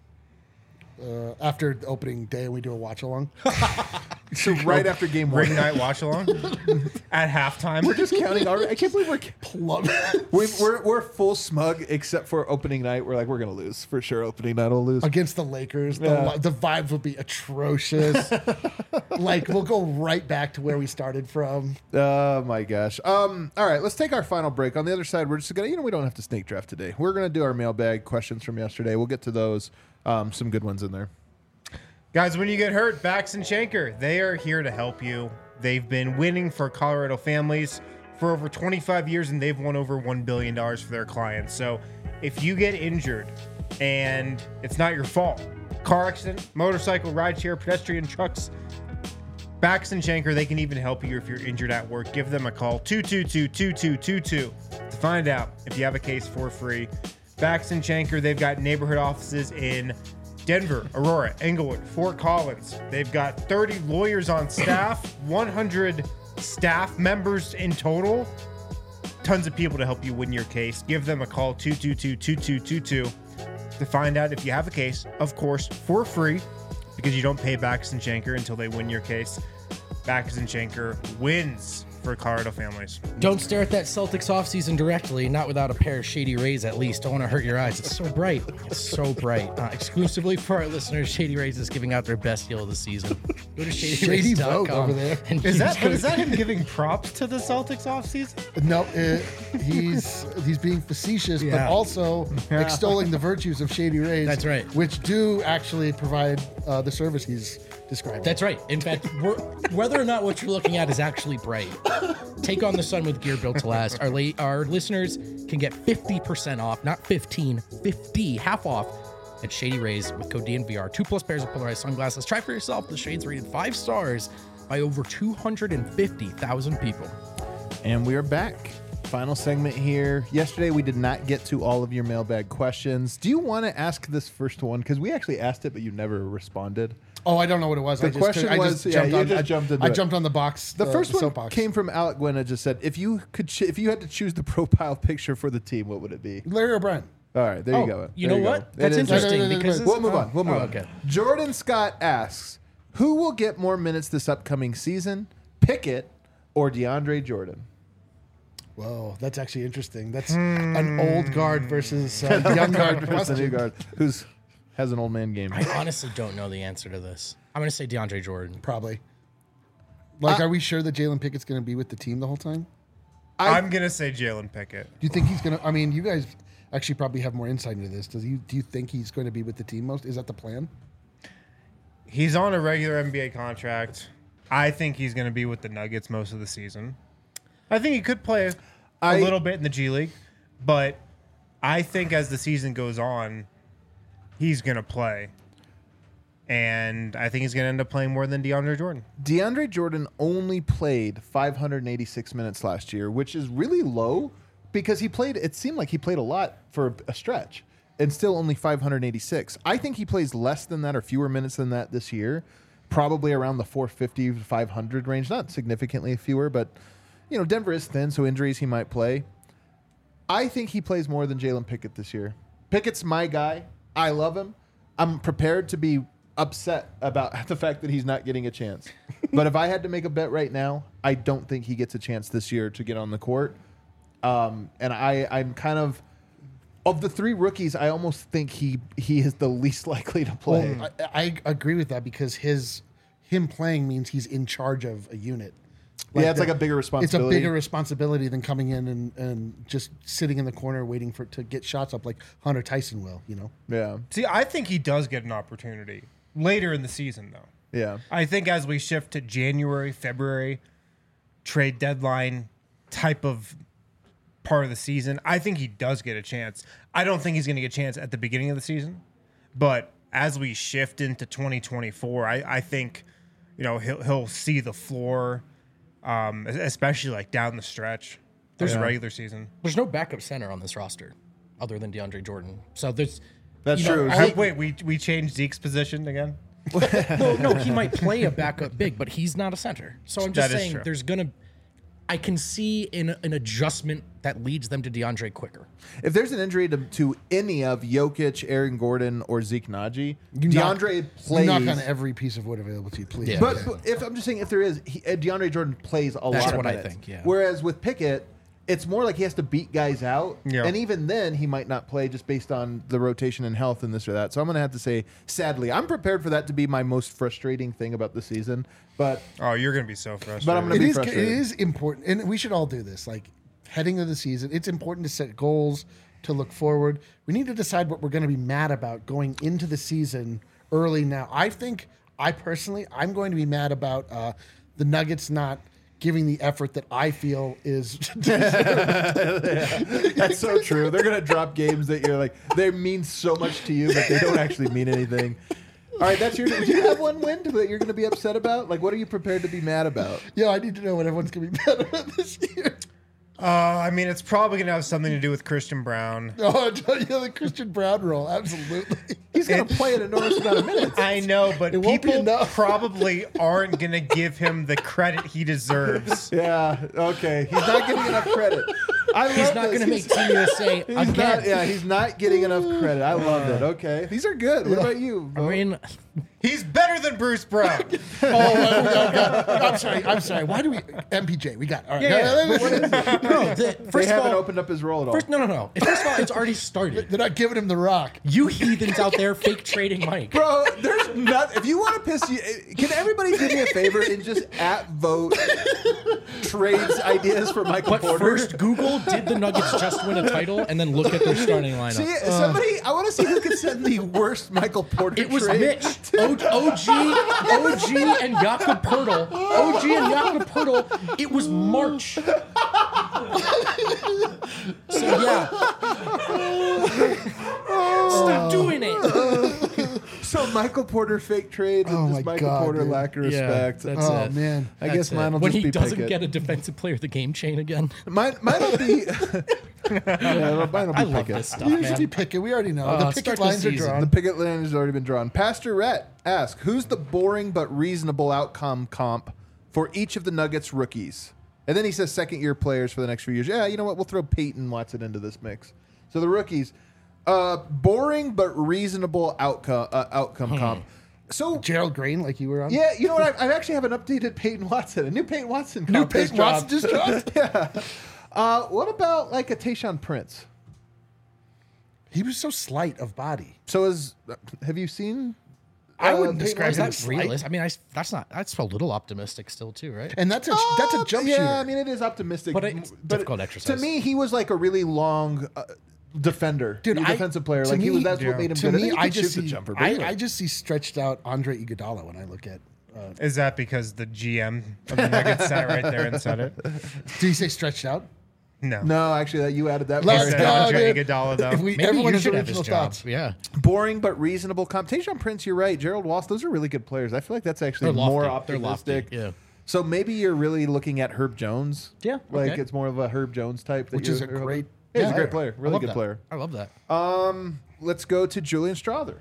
After the opening day, we do a watch along. So right after game 1. Ring night watch along at halftime. We're just counting already. I can't believe we're full smug except for opening night. We're like, we're going to lose. For sure, opening night will lose. Against the Lakers, Yeah. the vibes will be atrocious. Like, we'll go right back to where we started from. Oh, my gosh. All right, let's take our final break. On the other side, we're just going to, we don't have to snake draft today. We're going to do our mailbag questions from yesterday. We'll get to those. Some good ones in there. Guys, when you get hurt, Bax and Shanker, they are here to help you. They've been winning for Colorado families for over 25 years, and they've won over $1 billion for their clients. So if you get injured and it's not your fault, car accident, motorcycle, rideshare, pedestrian, trucks, Bax and Shanker, they can even help you if you're injured at work. Give them a call, 222-2222, to find out if you have a case for free. Bax and Shanker, they've got neighborhood offices in Denver, Aurora, Englewood, Fort Collins. They've got 30 lawyers on staff, 100 staff members in total. Tons of people to help you win your case. Give them a call, 222-2222, to find out if you have a case, of course, for free, because you don't pay Bax and Shanker until they win your case. Bax and Shanker wins for Colorado families. Don't stare at that Celtics offseason directly, not without a pair of Shady Rays at least. Don't want to hurt your eyes. It's so bright. It's so bright. Exclusively for our listeners, Shady Rays is giving out their best deal of the season. Go to Shady Vogue over there. Is that him giving props to the Celtics offseason? No, he's being facetious, but also extolling the virtues of Shady Rays. That's right. Which do actually provide the service he's describing. That's right. In fact, whether or not what you're looking at is actually bright, take on the sun with gear built to last. Our listeners can get 50% off, not 15, 50, half off at Shady Rays with code DNVR. 2+ pairs of polarized sunglasses. Try for yourself. The shades rated 5 stars by over 250,000 people. And we are back. Final segment here. Yesterday, we did not get to all of your mailbag questions. Do you want to ask this first one? Because we actually asked it, but you never responded. Oh, I don't know what it was. The question was, I jumped on the box. The first one soapbox. came from Alec Gwynn. Just said, if you had to choose the profile picture for the team, what would it be? Larry O'Brien. All right, there you go. You know what? That's interesting because we'll move on. We'll move on. Okay. Jordan Scott asks, who will get more minutes this upcoming season, Pickett or DeAndre Jordan? Whoa, that's actually interesting. That's an old guard versus young guard. Versus a new guard who's has an old man game. I honestly don't know the answer to this. I'm going to say DeAndre Jordan. Probably. Like, are we sure that Jalen Pickett's going to be with the team the whole time? I'm going to say Jalen Pickett. Do you think he's going to? I mean, you guys actually probably have more insight into this. Do you think he's going to be with the team most? Is that the plan? He's on a regular NBA contract. I think he's going to be with the Nuggets most of the season. I think he could play a little bit in the G League, but I think as the season goes on, he's going to play. And I think he's going to end up playing more than DeAndre Jordan. DeAndre Jordan only played 586 minutes last year, which is really low because it seemed like he played a lot for a stretch and still only 586. I think he plays less than that or fewer minutes than that this year, probably around the 450 to 500 range, not significantly fewer, but Denver is thin, so injuries he might play. I think he plays more than Jalen Pickett this year. Pickett's my guy. I love him. I'm prepared to be upset about the fact that he's not getting a chance. But if I had to make a bet right now, I don't think he gets a chance this year to get on the court. And I'm kind of the three rookies, I almost think he is the least likely to play. Well, I agree with that because him playing means he's in charge of a unit. It's like a bigger responsibility. It's a bigger responsibility than coming in and just sitting in the corner waiting to get shots up like Hunter Tyson will, Yeah. See, I think he does get an opportunity later in the season, though. Yeah. I think as we shift to January, February, trade deadline type of part of the season, I think he does get a chance. I don't think he's going to get a chance at the beginning of the season, but as we shift into 2024, I think, he'll see the floor. Especially like down the stretch. There's a regular season. There's no backup center on this roster other than DeAndre Jordan. So that's true. Wait, we changed Zeke's position again? No, he might play a backup big, but he's not a center. So I'm just saying I can see an adjustment that leads them to DeAndre quicker. If there's an injury to any of Jokic, Aaron Gordon, or Zeke Naji, DeAndre plays. You knock on every piece of wood available to you, please. Yeah. But if I'm just saying, if there is, DeAndre Jordan plays a lot of minutes. That's what I think, yeah. Whereas with Pickett, it's more like he has to beat guys out. Yeah. And even then, he might not play just based on the rotation and health and this or that. So I'm going to have to say, sadly, I'm prepared for that to be my most frustrating thing about the season. But you're going to be so frustrated. But I'm going to be frustrated. It is important, and we should all do this. Like, heading into the season, it's important to set goals, to look forward. We need to decide what we're going to be mad about going into the season early now. I'm going to be mad about the Nuggets not giving the effort that I feel is That's so true. They're going to drop games that you're like, they mean so much to you, but they don't actually mean anything. All right, that's your. Do you have one win that you're going to be upset about? Like, what are you prepared to be mad about? Yeah, I need to know what everyone's going to be mad about this year. I mean, it's probably going to have something to do with Christian Brown. Oh, yeah, the Christian Brown role, absolutely. He's going to play an enormous amount of minutes. I know, but people probably aren't going to give him the credit he deserves. Yeah, okay. He's not getting enough credit. He's not going to make Team USA again. He's not getting enough credit. I love it. Okay, these are good. What about you? I mean, He's better than Bruce Brown. I'm sorry. Why do we MPJ? We got all right. first They of haven't all, opened up his role at all. no. First of all, it's already started. They're not giving him the rock. You heathens out there fake trading Mike. Bro, there's not. If you want to piss you, can everybody do me a favor and just vote trades ideas for Michael But Porter? first, Google did the Nuggets just win a title, and then look at their starting lineup. See, somebody. I want to see who can send the worst Michael Porter. It was trade. Mitch, OG, and Jakob Poeltl. OG and Jakob Poeltl. It was March. So yeah, stop doing it. So Michael Porter fake trades and just Michael Porter dude. lack of respect. That's Oh it. man. I guess mine will When just he be doesn't Pickett. get a defensive player of the game chain again. Mine will be. Yeah, mine will be I love Pickett. this stuff, You should be man. Pickett. We already know. The start Pickett the lines are season. drawn. The Pickett line has already been drawn. Pastor Rhett asks, who's the boring but reasonable outcome comp for each of the Nuggets rookies? And then he says second-year players for the next few years. Yeah, you know what? We'll throw Peyton Watson into this mix. So the rookies, boring but reasonable outcome comp. So Gerald Green, like you were on. yeah, you know what? I actually have an updated Peyton Watson, a new Peyton Watson comp. New Peyton Watson just dropped. Yeah. What about like a Tayshaun Prince? He was so slight of body. So have you seen? I wouldn't Peyton describe Is him that as slight. realist? I mean, that's a little optimistic still too, right? And that's a jump yeah, shooter. I mean, it is optimistic. But it's difficult exercise. To me, he was like a really long defender. Dude, defensive player. to Like me- that's what made him to good. me, I I think he could just shoot the see jumper. But I anyway. just see stretched out Andre Iguodala when I look at. Is that because the GM of the Nuggets sat right there and said it? Did he say stretched out? No. No, actually, you added that. Let's He part. said go, Andre dude. Iguodala, though. If we, Maybe everyone you has should have his original job. thoughts. Yeah. Boring but reasonable comp. Tayshaun Prince, you're right. Gerald Walsh, those are really good players. I feel like that's actually They're lofty. more They're optimistic. lofty, yeah. So maybe you're really looking at Herb Jones. Yeah, Like okay. it's more of a Herb Jones type. That Which is a you're- great- Yeah, he's a yeah, great player. I Really love good that. player. I love that. Let's go to Julian Strother.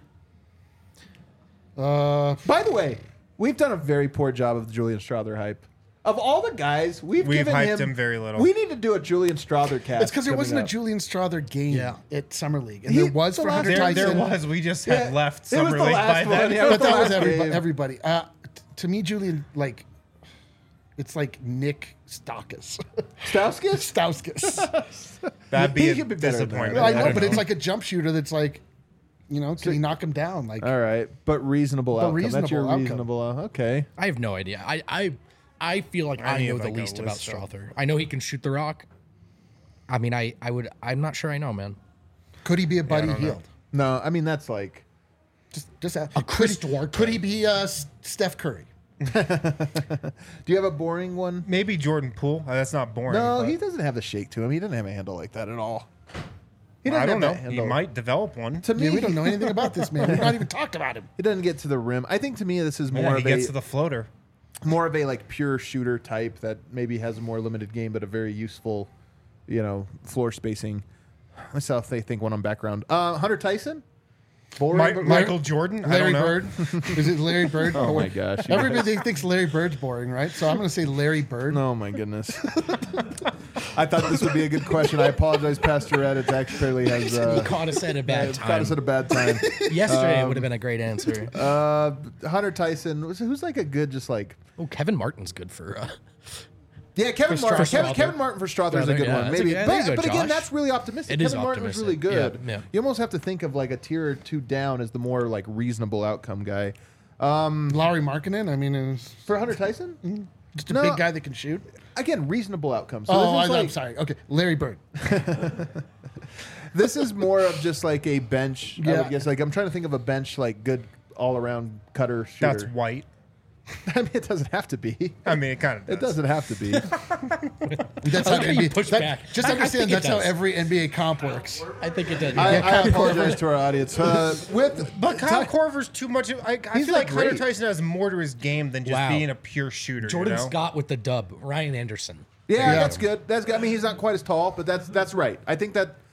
Uh, By the way, we've done a very poor job of the Julian Strother hype. Of all the guys, we've given hyped him very little. We need to do a Julian Strother cast. it's because there coming wasn't up. a Julian Strother game Yeah. at Summer League, and He- there was the for last- Hunter There Tyson. was. We just Yeah, had left it was Summer the League last by one, then. yeah. But that was last game. everybody. To me, Julian, like, it's like Nick Stauskas. Stauskas? Stauskas. That'd be He a could be better than disappointment. that. I know, don't but it's like a jump shooter that's like, can he knock him down? Like, All right, but reasonable outcome. That's your reasonable outcome. reasonable. Okay. I have no idea. I feel like I need know like the a least about list of- Strother. I know he can shoot the rock. I mean, I'm not sure I know, man. could he be a Buddy don't know. Hield? No, I mean that's like. Just a Chris Duarte. Could he be Steph Curry? Do you have a boring one? Maybe Jordan Poole. That's not boring. No, but he doesn't have the shake to him. He doesn't have a handle like that at all. He I doesn't don't know. have that He handle. might develop one. To me, Yeah, we don't know anything about this man. We've not even talked about him. He doesn't get to the rim. I think to me this is more Yeah, he of gets a to the floater. more of a like pure shooter type that maybe has a more limited game but a very useful, floor spacing. Let's see if they think one on background. Hunter Tyson, boring. but- Michael Jordan. I Larry don't know. Bird. Is it Larry Bird? Oh my gosh! Everybody thinks Larry Bird's boring, right? So I'm going to say Larry Bird. Oh my goodness! I thought this would be a good question. I apologize, Pastor Ed. It actually has He caught us at a bad caught time. us at a bad time. Yesterday it would have been a great answer. Hunter Tyson, who's like a good, just like Oh, Kevin Martin's good for. Kevin Martin. Strother. Kevin Martin for Strother is a Strother, good yeah, one, that's a maybe. good- there you go, but again, Josh. that's really optimistic. It is Kevin Martin was really optimistic. good. Yeah, yeah. You almost have to think of like a tier or two down as the more like reasonable outcome guy. Laurie Markkinen. I mean, is For Hunter Tyson, just a No. big guy that can shoot. again, reasonable outcome. So Oh, this is I'm like, sorry. Okay, Larry Bird. this is more of just like a bench. I Yeah. would guess. Like I'm trying to think of a bench like good all around cutter shooter. That's white. I mean, it doesn't have to be. I mean, it kind of does. It doesn't have to be. That's like how you push back. Just I understand think it that's how does. every NBA comp works. I think it did. I Kyle apologize to our audience. But Kyle Korver's too much. I He's feel like great. Hunter Tyson has more to his game than just Wow. being a pure shooter. Jordan you know? Scott with the dub. Ryan Anderson. Yeah, Yeah. that's good. That's good. I mean, he's not quite as tall, but that's right. I think that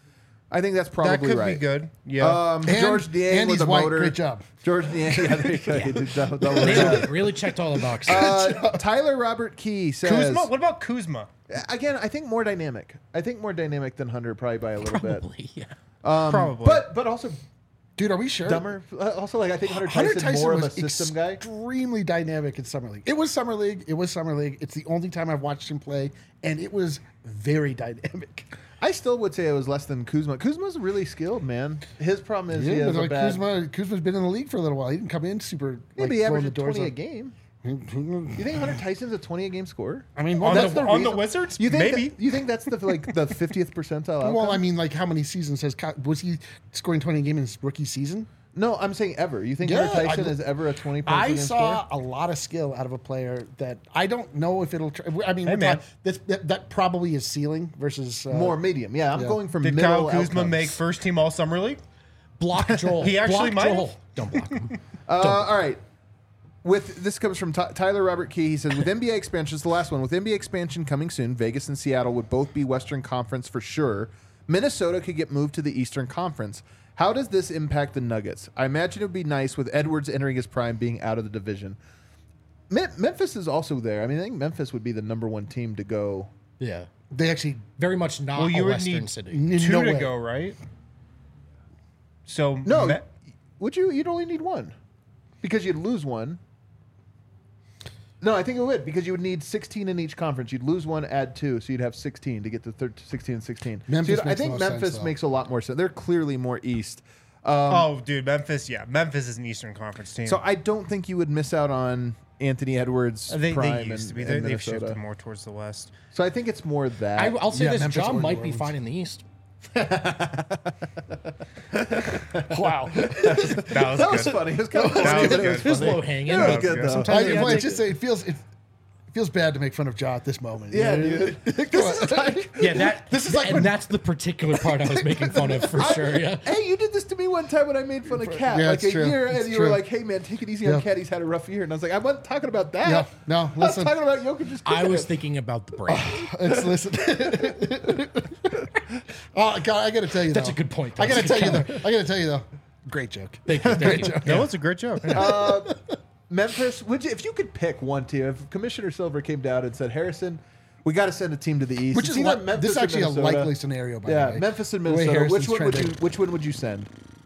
I think that's probably That could right. be good. Yeah. George Niang and with he's a white. motor. Great job. George Niang. Yeah, there you go. He did double Really checked all the boxes. Tyler Robert Key says. Kuzma? What about Kuzma? Again, I think more dynamic. I think more dynamic than Hunter, probably by a little bit. Probably, yeah. Probably. But also Dude, are we sure? dumber. Also, like I think Hunter Hunter Tyson Tyson more of was a system guy. extremely dynamic in Summer League. It was Summer League. It's the only time I've watched him play, and it was very dynamic. I still would say it was less than Kuzma. Kuzma's really skilled, man. His problem is he Yeah, has but a like bad. Kuzma's been in the league for a little while. He didn't come in super. Yeah, like, but he blowing the averaged doors 20 a up. game. You think Hunter Tyson's a 20 a game scorer? I mean, On that's the reason- Wizards? You think Maybe. you think that's the 50th percentile outcome? well, I mean, like how many seasons was he scoring 20 a game in his rookie season? No, I'm saying ever. You think Yeah, Hunter Tyson I- is ever a 20 points a I game saw scorer? a lot of skill out of a player that I don't know if it'll. I mean, Hey, man. that probably is ceiling versus More medium. Yeah, I'm yeah. going for Did middle Kyle Kuzma outcomes. make first team All Summer League? Block Joel. He actually block might Joel. have. Don't block him. All right. With this comes from Tyler Robert Key. He says, with NBA expansion, it's the last one. With NBA expansion coming soon, Vegas and Seattle would both be Western Conference for sure. Minnesota could get moved to the Eastern Conference. How does this impact the Nuggets? I imagine it would be nice with Edwards entering his prime, being out of the division. Memphis is also there. I mean, I think Memphis would be the number one team to go. Yeah. They actually Very much not Well, you a would Western need city. two no to way. go, right? So No, would you? You'd only need one because you'd lose one. No, I think it would because you would need 16 in each conference. You'd lose one, add two, so you'd have 16 to get to 16 and 16. Memphis So I makes think the most Memphis sense, though. makes a lot more sense. They're clearly more East. oh, dude, Memphis. Yeah, Memphis is an Eastern Conference team. So I don't think you would miss out on Anthony Edwards' they prime used to be. in They've Minnesota. shifted more towards the West. So I think it's more that. I'll say Yeah, this: Memphis or John New might be Orleans. fine in the East. wow. That was good. funny. It was kind of That was funny. good. It was low hanging. It was That was good good. though. Sometimes you Well, gotta it's just it feels bad to make fun of Ja at this moment. Yeah, You know? dude. This is like, Yeah, that. This is like and when- that's the particular part I was making fun of for sure. Yeah. hey, you did this to me one time when I made fun of Cat, Yeah, like it's a true. year, and It's you were true. like, "Hey, man, take it easy on Yeah. Cat. He's had a rough year." And I was like, "I wasn't talking about that. Yeah, no, I was listen. talking about Jokic just I kicking was it." thinking about the brand. It's listen. Oh God, I got to tell you, That's though. a good point. I got to That's a tell you, good though. I got to tell you, though. Great joke. Thank you. Thank you. That was a great joke. Memphis, if you could pick one team, if Commissioner Silver came down and said, "Harrison, we got to send a team to the East," Which it's is either li- Memphis this is or actually a Minnesota. likely scenario, by Yeah, the way. Memphis and The way Minnesota. Harrison's Which trending. one would you send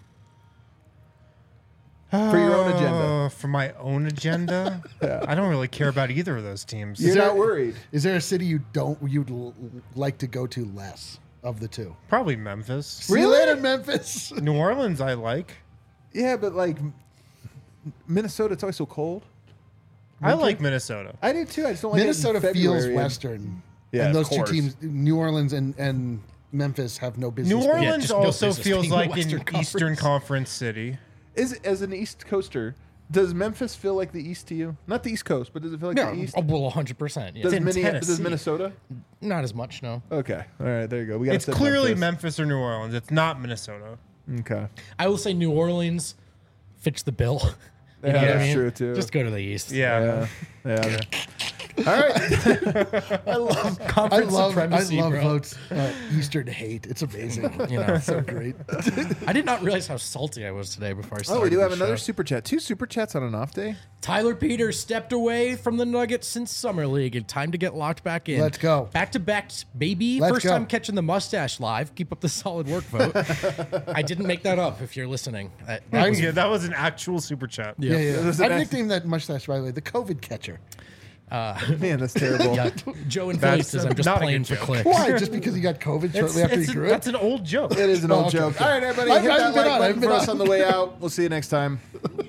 for your own agenda? For my own agenda, I don't really care about either of those teams. You're there- not worried. Is there a city you'd like to go to less of the two? Probably Memphis. See you later, Memphis. New Orleans, I like. Yeah, but like Minnesota, it's always so cold. I like Minnesota. I do too. I just don't like Minnesota it in feels February. Western. Yeah, and of those two course. teams, New Orleans and Memphis, have no business. New being- Orleans just no also business feels being the like Western an Eastern Conference city. Is as an East Coaster, does Memphis feel like the East to you? Not the East Coast, but does it feel like the East? Oh, well, 100%. Yeah. Does, in does Tennessee. Minnesota? Not as much, no. Okay, all right, there you go. We got It's clearly Memphis or New Orleans. It's not Minnesota. Okay, I will say New Orleans fits the bill. You yeah, know what I that's mean? true too. Just go to the East. Yeah. yeah. All right. I love Conference supremacy, bro. Votes Eastern hate. It's amazing. You know, So great. I did not realize how salty I was today before I started. Oh, we do have the another show. super chat. 2 super chats on an off day. Tyler Peters stepped away from the Nuggets since Summer League and time to get locked back in. Let's go. Back to back, baby. Let's First go. time catching the mustache live. Keep up the solid work, vote. I didn't make that up if you're listening. That was, Yeah, that was an actual super chat. Yeah, yeah. There's I've an- nicknamed that mustache, by the way, the COVID catcher. Man, that's terrible. yeah, Joe and Philly That's says I'm just not a playing good for joke. clicks. Why? Just because he got COVID shortly after he grew That's up? an old joke. It is an Oh, old okay, joke. okay. All right, everybody, I hit that haven't been like on, I button haven't been for us on. on the way out. We'll see you next time.